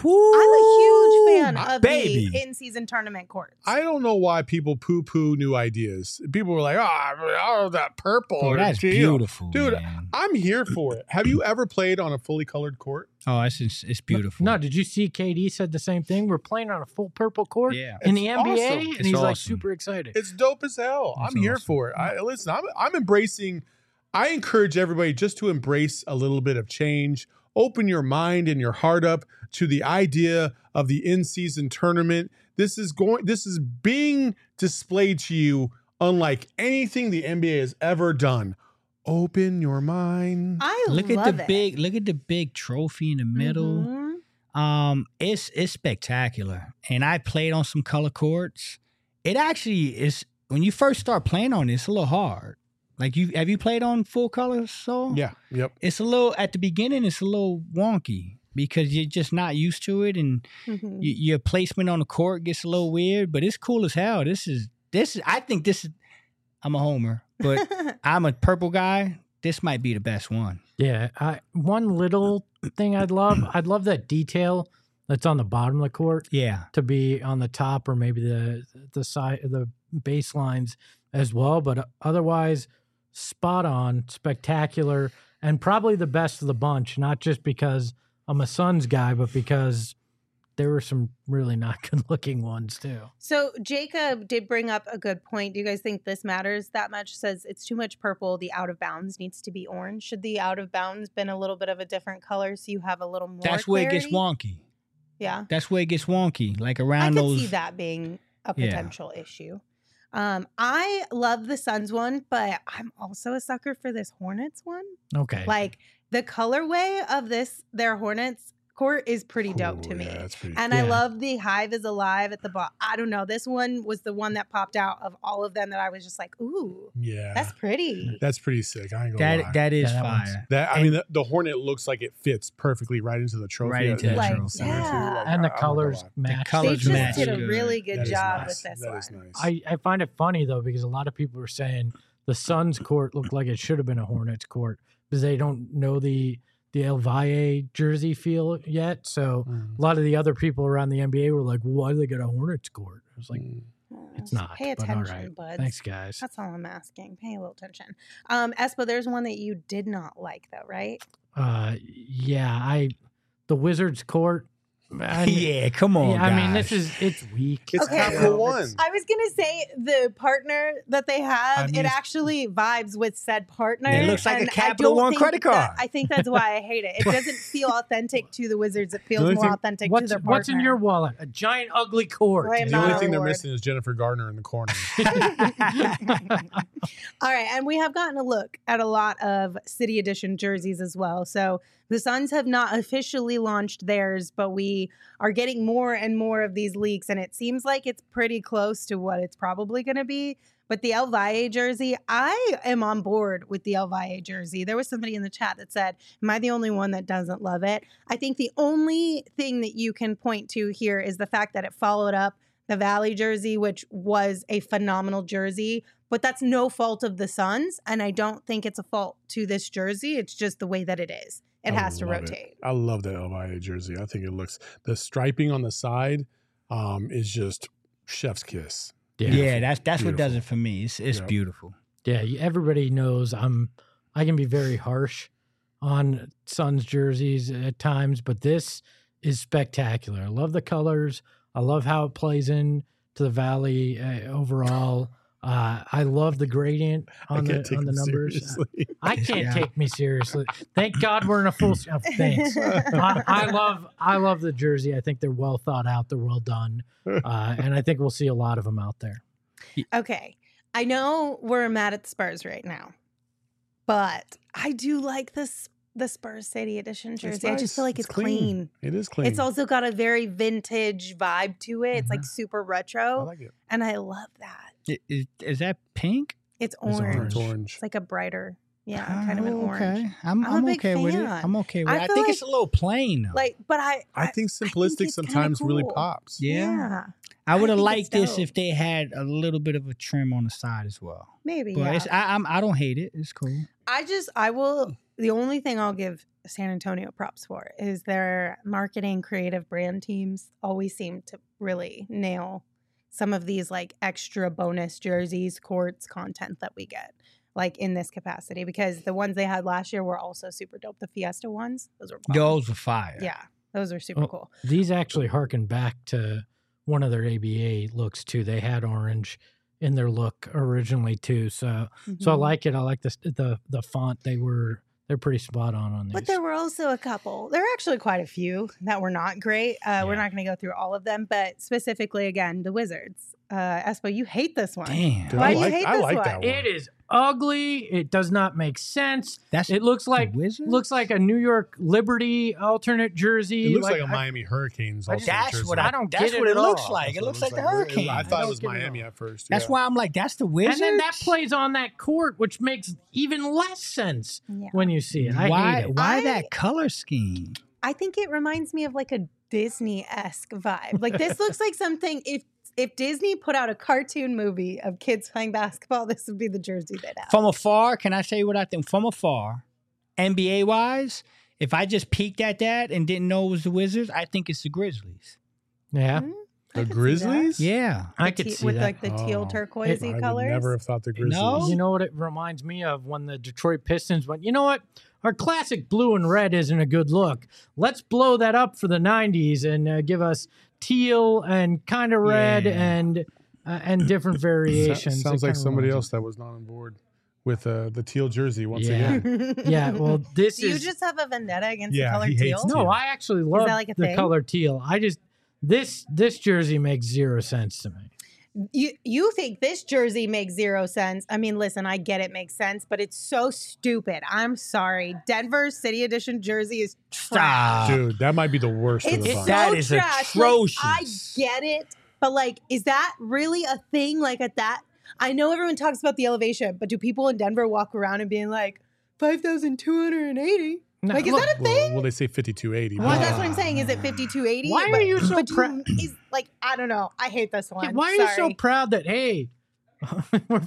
a huge fan of baby. the in-season tournament courts. I don't know why people poo-poo new ideas. People were like, oh that purple. Oh, or that's teal." beautiful, Dude, man. I'm here for it. Have you ever played on a fully colored court? Oh, it's beautiful. No, did you see KD said the same thing? We're playing on a full purple court Yeah. in the It's NBA, awesome. and It's he's like awesome. super excited. It's dope as hell. That's I'm here awesome. for it. Listen, I'm embracing. I encourage everybody just to embrace a little bit of change. Open your mind and your heart up to the idea of the in-season tournament. This is being displayed to you unlike anything the NBA has ever done. Open your mind. I Look love at the it. look at the big trophy in the middle. Mhm. It's spectacular. And I played on some color courts. It actually is when you first start playing on it, it's a little hard. Like have you played on full color, so Yeah. Yep. it's a little at the beginning it's a little wonky because you're just not used to it and Mhm. your placement on the court gets a little weird, but it's cool as hell. This is I think this is I'm a homer, but I'm a purple guy. This might be the best one. Yeah, one little thing I'd love that detail that's on the bottom of the court Yeah. to be on the top or maybe the side the baselines as well. But otherwise, spot on, spectacular, and probably the best of the bunch. Not just because I'm a Suns guy, but because there were some really not good looking ones too. So Jacob did bring up a good point. Do you guys think this matters that much? Says it's too much purple. The out of bounds needs to be orange. Should the out of bounds been a little bit of a different color so you have a little more? That's where it gets clarity? wonky. Yeah, That's where it gets wonky. Like I around could those see that being a Yeah. potential issue. I love the Suns one, but I'm also a sucker for this Hornets one. Okay. Like the colorway of their Hornets court is pretty dope to Ooh, me. yeah, that's pretty. And I Yeah. love the Hive is Alive at the bottom. I don't know. This one was the one that popped out of all of them that I was just like, ooh, Yeah. that's pretty. That's pretty sick. I ain't gonna lie. that is Yeah, that one's- fire. I mean, the Hornet looks like it fits perfectly right into the trophy. Right into that the Like, trophy. center too. yeah. Like, and the I'm not colors gonna lie. match. They colors just match did a good. really good That is job nice. with this That one. is nice. I find it funny though because a lot of people were saying the Suns court looked like it should have been a Hornets court because they don't know the El Valle jersey feel yet. So a lot of the other people around the NBA were like, "Why do they get a Hornets court?" I was like, "It's not." Pay but all attention, right. buds. Thanks, guys. That's all I'm asking. Pay a little attention. Espo, there's one that you did not like though, right? Yeah, the Wizards court. Yeah, come on. Yeah, I mean, guys. it's weak. It's Okay. Capital One. I was gonna say the partner that they have, I mean, it it's- actually vibes with said partner. It looks like a and I Capital don't One think credit card. I think that's why I hate it. It doesn't feel authentic to the Wizards. It feels only more thing- authentic to What's their partner. what's in your wallet? A giant ugly court. Right, The not only a thing they're award. missing is Jennifer Gardner in the corner. All right, and we have gotten a look at a lot of City Edition jerseys as well. So the Suns have not officially launched theirs, but we are getting more and more of these leaks, and it seems like it's pretty close to what it's probably going to be. But the El Valle jersey, I am on board with the El Valle jersey. There was somebody in the chat that said, am I the only one that doesn't love it? I think the only thing that you can point to here is the fact that it followed up the Valley jersey, which was a phenomenal jersey, but that's no fault of the Suns. And I don't think it's a fault to this jersey. It's just the way that it is. It has to rotate. I love that Elvira jersey. I think it looks, the striping on the side is just chef's kiss. Yeah, that's what Beautiful. does it for me. It's beautiful. Yeah, everybody knows I can be very harsh on Suns jerseys at times, but this is spectacular. I love the colors. I love how it plays in to the Valley overall. I love the gradient on the numbers. Seriously. I can't take me seriously. Thank God we're in a full. Thanks. I love the jersey. I think they're well thought out. They're well done, and I think we'll see a lot of them out there. Okay. I know we're mad at the Spurs right now, but I do like the Spurs City Edition jersey. I just feel like it's clean. It is clean. It's also got a very vintage vibe to it. It's like super retro. I like it. And I love that. Is that pink? It's It's orange. orange. It's like a brighter, kind of an orange. Okay. I'm a I'm big okay with it. fan. I'm okay with I it. I feel think like- it's a little plain though. Like, but I think simplistic it's kinda sometimes really cool. pops. Yeah. I would have think liked it's this dope. if they had a little bit of a trim on the side as well. maybe. But Yeah. it's, I don't hate it. It's cool. I will. The only thing I'll give San Antonio props for is their marketing, creative brand teams always seem to really nail some of these like extra bonus jerseys, courts, content that we get like in this capacity, because the ones they had last year were also super dope. The Fiesta ones, those were bomb. Those were fire. Yeah, those are super cool. These actually harken back to one of their ABA looks too. They had orange in their look originally too. So I Mhm. like it. I like the font. They're pretty spot on these. But there were also a couple. There were actually quite a few that were not great. We're not going to go through all of them, but specifically, again, the Wizards. Espo, you hate this one. Damn. Dude, Why I do you like, hate I this like one? that one. It is ugly. It does not make sense. It looks like Wizards? looks like a New York Liberty alternate jersey. It looks like a Miami Hurricanes. Also That's jersey. what I don't that's get what it it at looks all. like. It That's what looks like the It- Hurricane. I thought it was don't get it Miami all. at first. That's yeah. why I'm like, that's the Wizards. And then that plays on that court, which makes even less sense Yeah. when you see it. I hate it. Why I- that color scheme? I think it reminds me of like a Disney-esque vibe. Like this looks like something if Disney put out a cartoon movie of kids playing basketball, this would be the jersey they'd have. From afar, can I say what I think? From afar, NBA wise, if I just peeked at that and didn't know it was the Wizards, I think it's the Grizzlies. Yeah, Hmm? The I could see that. Grizzlies? Yeah. I The could see with that. like the teal Oh. turquoisey I would colors. never have thought the Grizzlies. No? You know what it reminds me of? When the Detroit Pistons went, you know what? Our classic blue and red isn't a good look. Let's blow that up for the 90s and give us teal and kind of red Yeah. and different variations. Sounds It like kinda somebody reminds else that was not on board with the teal jersey once Yeah. again. me. Yeah, well, this Do you is just have a vendetta against Yeah, the color he hates teal? teal. no. I actually love that like a the thing? color teal. I just this jersey makes zero sense to me. You think this jersey makes zero sense. I mean, listen, I get it makes sense, but it's so stupid. I'm sorry. Denver City Edition jersey is trash. Stop. Dude, that might be the worst of It's the so bunch. That is trash. atrocious. Like, I get it, but like, is that really a thing? Like at that, I know everyone talks about the elevation, but do people in Denver walk around and being like 5,280? No, Like, is look, that a thing? Well, they say 5280. Well, but- that's what I'm saying. Is it 5280? Why are you so but do proud? is like I don't know. I hate this one. Why are you so Sorry. proud that hey, we're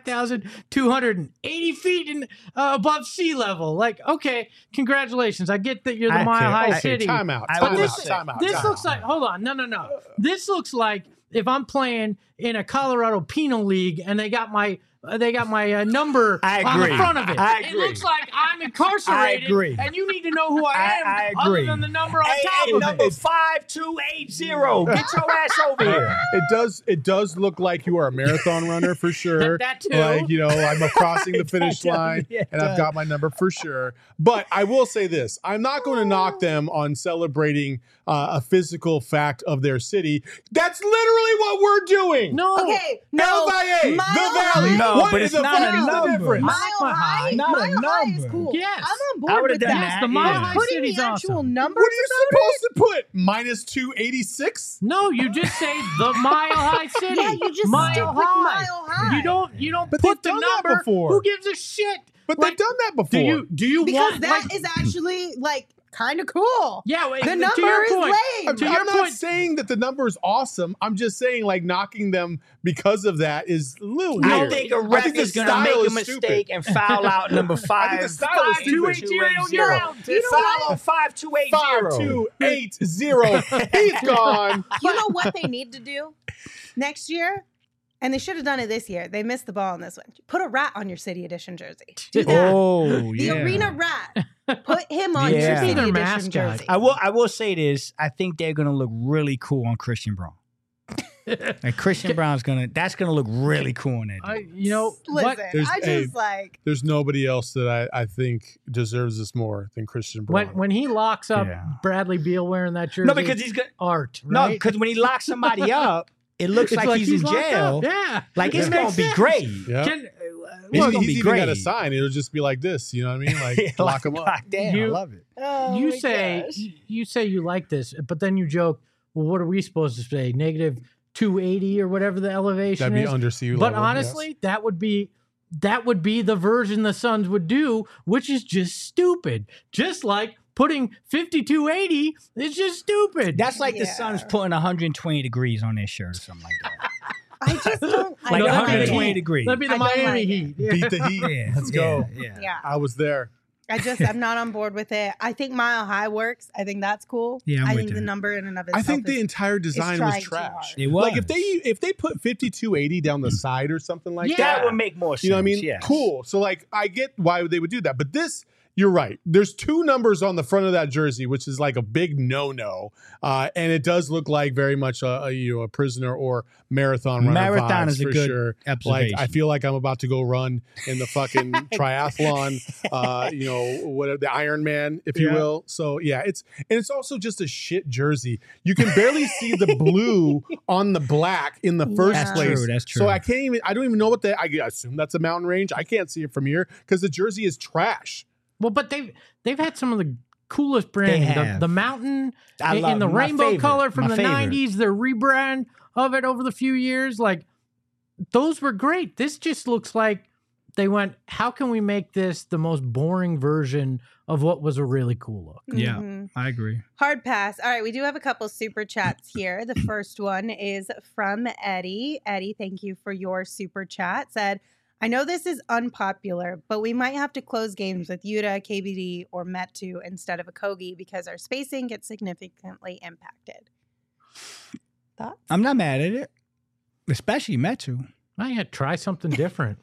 5,280 feet above sea level? Like, okay, congratulations. I get that you're the Okay, Mile High Okay, City. time out. I But Time would this, out. say- Time out. this time looks out. like, hold on, no. This looks like if I'm playing in a Colorado Penal League and they got my number I on the agree. front of it. I It agree. looks like I'm incarcerated, I agree. and you need to know who I am, I other agree. than the number on Hey, top hey, of number it. 5280. Get your ass over here. It does look like you are a marathon runner for sure. That too. Like, you know, I'm crossing the finish That does, line yeah, it and I've does. got my number for sure. But I will say this. I'm not going to knock them on celebrating a physical fact of their city. That's literally what we're doing. No. Okay, no. LVA, Mile the Valley. High- No, What but is it's the not a fuck is the number. difference? Mile Mile High, High, not a Mile High is number. cool. Yes. I'm on I board would've with done that. that. The Mile Yeah. High Putting City's the actual awesome. numbers. What are you supposed to put? Minus 286? No, you just say the Mile High City. Yeah, you just Mile stick with High. Mile High. You don't But put they've the done that number. before. Who gives a shit? But Like, they've done that before. Do you Because want that like, is actually like kind of cool. Yeah, wait, The to number your is point, lame. to your I'm not point, saying that the number is awesome. I'm just saying like knocking them because of that is a little weird. I think a ref the is going to style make a is mistake stupid. and foul out number 5. I think the style is stupid. 5280. You know Foul on 5280. 5280. He's gone. You know what they need to do next year? And they should have done it this year. They missed the ball on this one. Put a rat on your City Edition jersey. Do that. Oh, The yeah. arena rat. Put him on Yeah. your City Their Edition mascot. jersey. I will say this. I think they're going to look really cool on Christian Braun. And Christian Brown's that's going to look really cool on that. you know what? Listen, There's- I just like. There's nobody else that I think deserves this more than Christian Braun. When he locks up Yeah. Bradley Beal wearing that jersey, No, because he's good. art. No, Right? because when he locks somebody up, it looks It's like he's in locked jail. up. Yeah, Like it's It going makes to be sense. great. yeah. Can, It's Well, gonna he's be even got a great. sign. It'll just be like this. You know what I mean? Like lock him up. God damn, I You- love it. Oh you my say gosh. you say you like this, but then you joke. Well, what are we supposed to say? Negative 280 or whatever the elevation That'd be is. under sea level. But honestly, that would be the version the Suns would do, which is just stupid. Just like putting 5280 is just stupid. That's like the Yeah. Suns putting 120 degrees on their shirt or something like that. I just don't. I Like No, don't that'd be the 120 Heat. degrees. That'd be the I don't Miami like Heat. yes. Beat the Heat. Yeah, Let's go. Yeah. Yeah. I was there. I'm not on board with it. I think Mile High works. I think that's cool. Yeah, I'm I with think you. the number in and of I itself think the is entire design was trying too trash. hard. It was. Like if they put 5280 down the side or something like Yeah. that, That would make more sense. you know what I mean? Yes. Cool. So like I get why they would do that, but this. You're right. There's 2 numbers on the front of that jersey, which is like a big no-no, and it does look like very much a prisoner or marathon runner. Marathon vibes is a for good sure. observation. Like I feel like I'm about to go run in the fucking triathlon, whatever the Ironman, if you Yeah. will. So yeah, it's also just a shit jersey. You can barely see the blue on the black in the first That's place. true, that's So true. I don't even know what I assume that's a mountain range. I can't see it from here because the jersey is trash. Well, but they've had some of the coolest branding. have. The mountain I in love the my rainbow favorite, color from my the favorite. 90s, their rebrand of it over the few years, like those were great. This just looks like they went, how can we make this the most boring version of what was a really cool look? Yeah. Mhm. I agree. Hard pass. All right, we do have a couple super chats here. The first one is from Eddie. Eddie, thank you for your super chat. Said, I know this is unpopular, but we might have to close games with Yuta, KBD, or Metu instead of a Kogi because our spacing gets significantly impacted. Thoughts? I'm not mad at it, especially Metu. I had to try something different.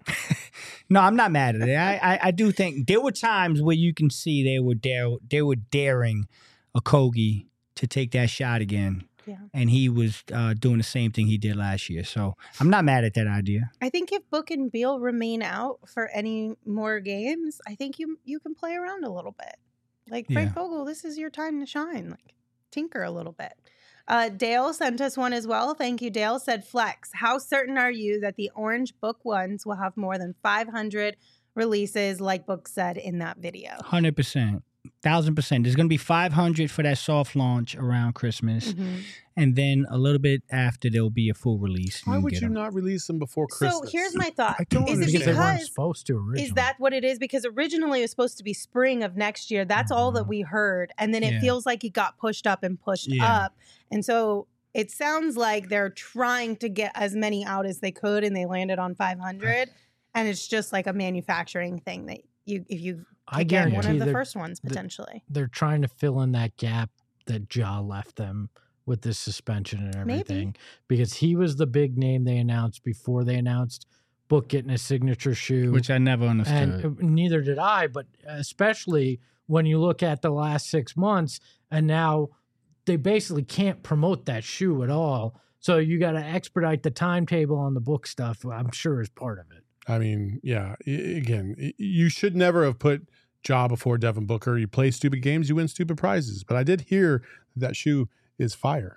No, I'm not mad at it. I do think there were times where you can see they were daring a Kogi to take that shot again. Yeah. And he was doing the same thing he did last year. So I'm not mad at that idea. I think if Book and Beal remain out for any more games, I think you can play around a little bit. Like Frank Vogel, this is your time to shine. Like tinker a little bit. Dale sent us one as well. Thank you, Dale. Said, Flex, how certain are you that the Orange Book ones will have more than 500 releases like Book said in that video? 100%. 1,000%. There's going to be 500 for that soft launch around Christmas. Mhm. And then a little bit after, there'll be a full release. Why can would get you 'em. not release them before Christmas? So here's my thought. I don't Is it Because they weren't because supposed to originally. is that what it is? Because originally it was supposed to be spring of next year. That's all that we heard. And then it Yeah. feels like it got pushed up and pushed Yeah. up. And so it sounds like they're trying to get as many out as they could and they landed on 500. And it's just like a manufacturing thing that if you I could get one guarantee of the they're- first ones potentially. they're trying to fill in that gap that Ja left them with this suspension and Maybe. everything, because he was the big name they announced before they announced Book getting a signature shoe, Which I never understood. and neither did I. But especially when you look at the last 6 months, and now they basically can't promote that shoe at all. So you got to expedite the timetable on the Book stuff. I'm sure is part of it. I mean, yeah. Again, you should never have put Ja before Devin Booker. You play stupid games, you win stupid prizes. But I did hear that shoe is fire.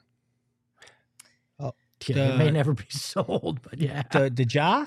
Yeah, it may never be sold, but yeah. The Ja?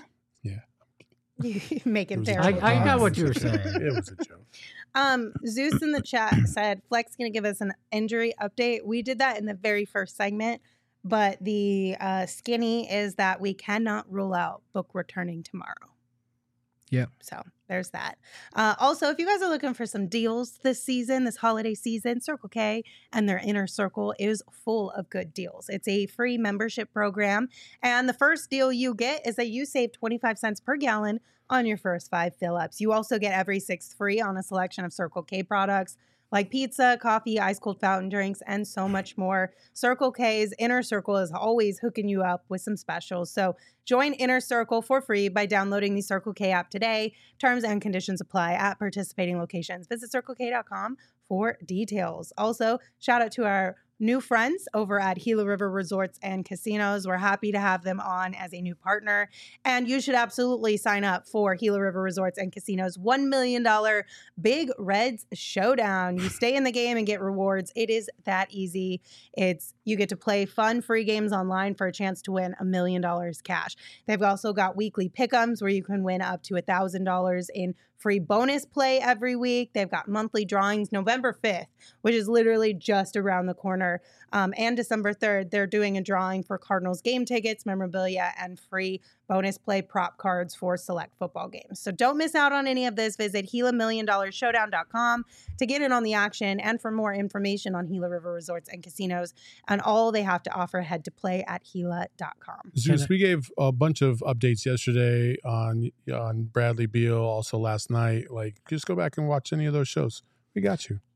You make It it was a terrible. joke. I got what you were saying. It was a joke. Zeus in the chat said Flex going to give us an injury update. We did that in the very first segment, but the skinny is that we cannot rule out Book returning tomorrow. Yep. So there's that. Also, if you guys are looking for some deals this season, this holiday season, Circle K and their Inner Circle is full of good deals. It's a free membership program. And the first deal you get is that you save 25 cents per gallon on your first 5 fill-ups. You also get every 6th free on a selection of Circle K products like pizza, coffee, ice cold fountain drinks, and so much more. Circle K's Inner Circle is always hooking you up with some specials. So join Inner Circle for free by downloading the Circle K app today. Terms and conditions apply at participating locations. Visit CircleK.com for details. Also, shout out to our new friends over at Gila River Resorts and Casinos. We're happy to have them on as a new partner. And you should absolutely sign up for Gila River Resorts and Casinos $1 million Big Reds Showdown. You stay in the game and get rewards. It is that easy. You get to play fun, free games online for a chance to win $1 million cash. They've also got weekly pick'ems where you can win up to $1,000 in free bonus play every week. They've got monthly drawings November 5th, which is literally just around the corner. And December 3rd, they're doing a drawing for Cardinals game tickets, memorabilia, and free bonus play prop cards for select football games. So don't miss out on any of this. Visit GilaMillionDollarShowdown.com to get in on the action and for more information on Gila River Resorts and Casinos and all they have to offer, head to play at Gila.com. Zeus, we gave a bunch of updates yesterday on Bradley Beal, also last night. Like, just go back and watch any of those shows. We got you.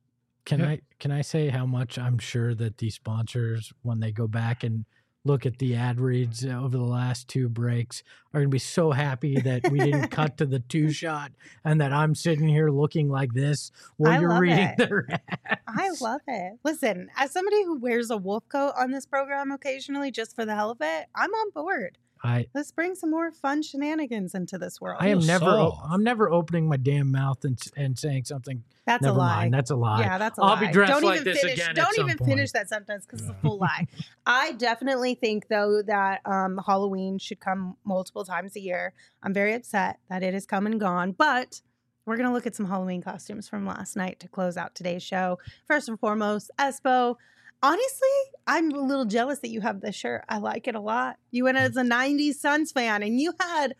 Can I say how much I'm sure that these sponsors, when they go back and look at the ad reads over the last 2 breaks, are going to be so happy that we didn't cut to the 2-shot and that I'm sitting here looking like this while you're reading their ads. I love it. Listen, as somebody who wears a wolf coat on this program occasionally just for the hell of it, I'm on board. Let's bring some more fun shenanigans into this world. I'm never opening my damn mouth and saying something. That's never a lie. Mind. That's a lie. Yeah, that's a lie. I'll be dressed don't like even this finish, again. Don't even finish that sentence because it's a full lie. I definitely think, though, that Halloween should come multiple times a year. I'm very upset that it has come and gone, but we're going to look at some Halloween costumes from last night to close out today's show. First and foremost, Espo. Honestly, I'm a little jealous that you have this shirt. I like it a lot. You went as a 90s Suns fan, and you had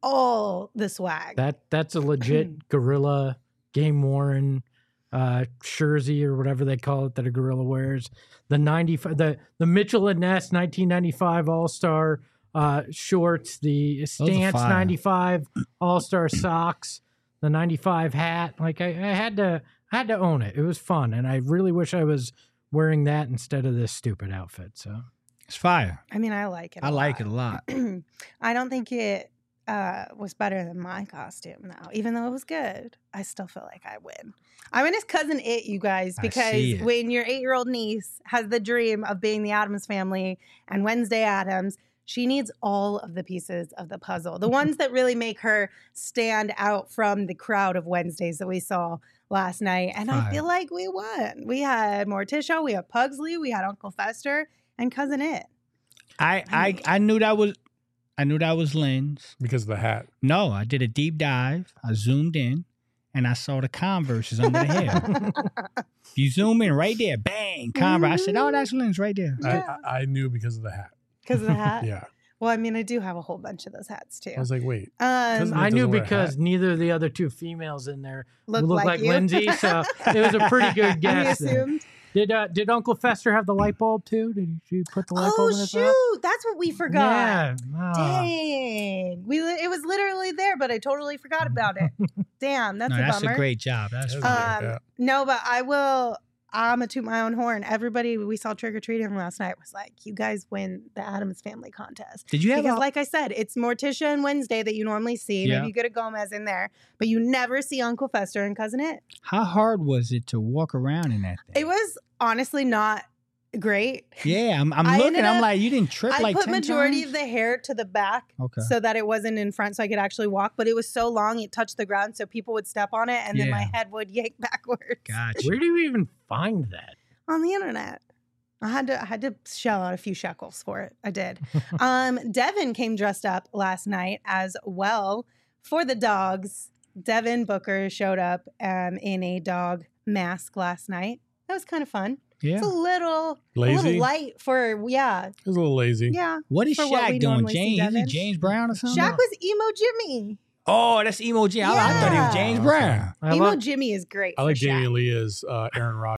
all the swag. That's a legit gorilla, game-worn jersey or whatever they call it that a gorilla wears. The Mitchell and Ness 1995 All-Star shorts, the Stance 95 All-Star socks, the 95 hat. Like I had to own it. It was fun, and I really wish I was wearing that instead of this stupid outfit. So it's fire. I mean, I like it. I like it a lot. I don't think it was better than my costume, though. Even though it was good, I still feel like I win. I'm in his cousin It, you guys, because when your 8-year-old niece has the dream of being the Addams Family and Wednesday Addams, she needs all of the pieces of the puzzle, the ones that really make her stand out from the crowd of Wednesdays that we saw last night. And I feel like we won. We had Morticia, we had Pugsley, we had Uncle Fester, and Cousin It. I knew that was Lynn's because of the hat. No, I did a deep dive. I zoomed in, and I saw the Converses under the hair. You zoom in right there, bang, Converse. I said, "Oh, that's Lynn's right there." Yeah. I knew because of the hat. Because of the hat? Yeah. Well, I mean, I do have a whole bunch of those hats, too. I was like, wait. I knew because neither of the other 2 females in there look like Lindsay, so it was a pretty good guess. Did Uncle Fester have the light bulb, too? Did you put the light bulb in his mouth? Oh, shoot. That's what we forgot. Yeah. Dang. It was literally there, but I totally forgot about it. Damn, that's a bummer. That's a great job. That's No, but I'm going to toot my own horn. Everybody we saw trick-or-treating last night was like, you guys win the Addams Family contest. Did you have Because like I said, it's Morticia and Wednesday that you normally see. Yeah. Maybe you get a Gomez in there, but you never see Uncle Fester and Cousin It. How hard was it to walk around in that thing? It was honestly not great. Yeah, I'm looking. I'm like, you didn't trip like 10 I put majority times? of the hair to the back so that it wasn't in front so I could actually walk, but it was so long it touched the ground so people would step on it and then my head would yank backwards. Gotcha. Where do you even find that? On the internet. I had to shell out a few shekels for it. I did. Devin came dressed up last night as well for the dogs. Devin Booker showed up in a dog mask last night. That was kind of fun. Yeah. It's a little light for, It was a little lazy. Yeah. What is for what Shaq we doing? normally see James? Is it Devin. James Brown or something? Shaq was emo Jimmy. Oh, that's Emo Jimmy. I thought he was James Yeah. Brown. I Emo love, Jimmy is great. I like for Jamie Shaq. Lee as Aaron Rodgers.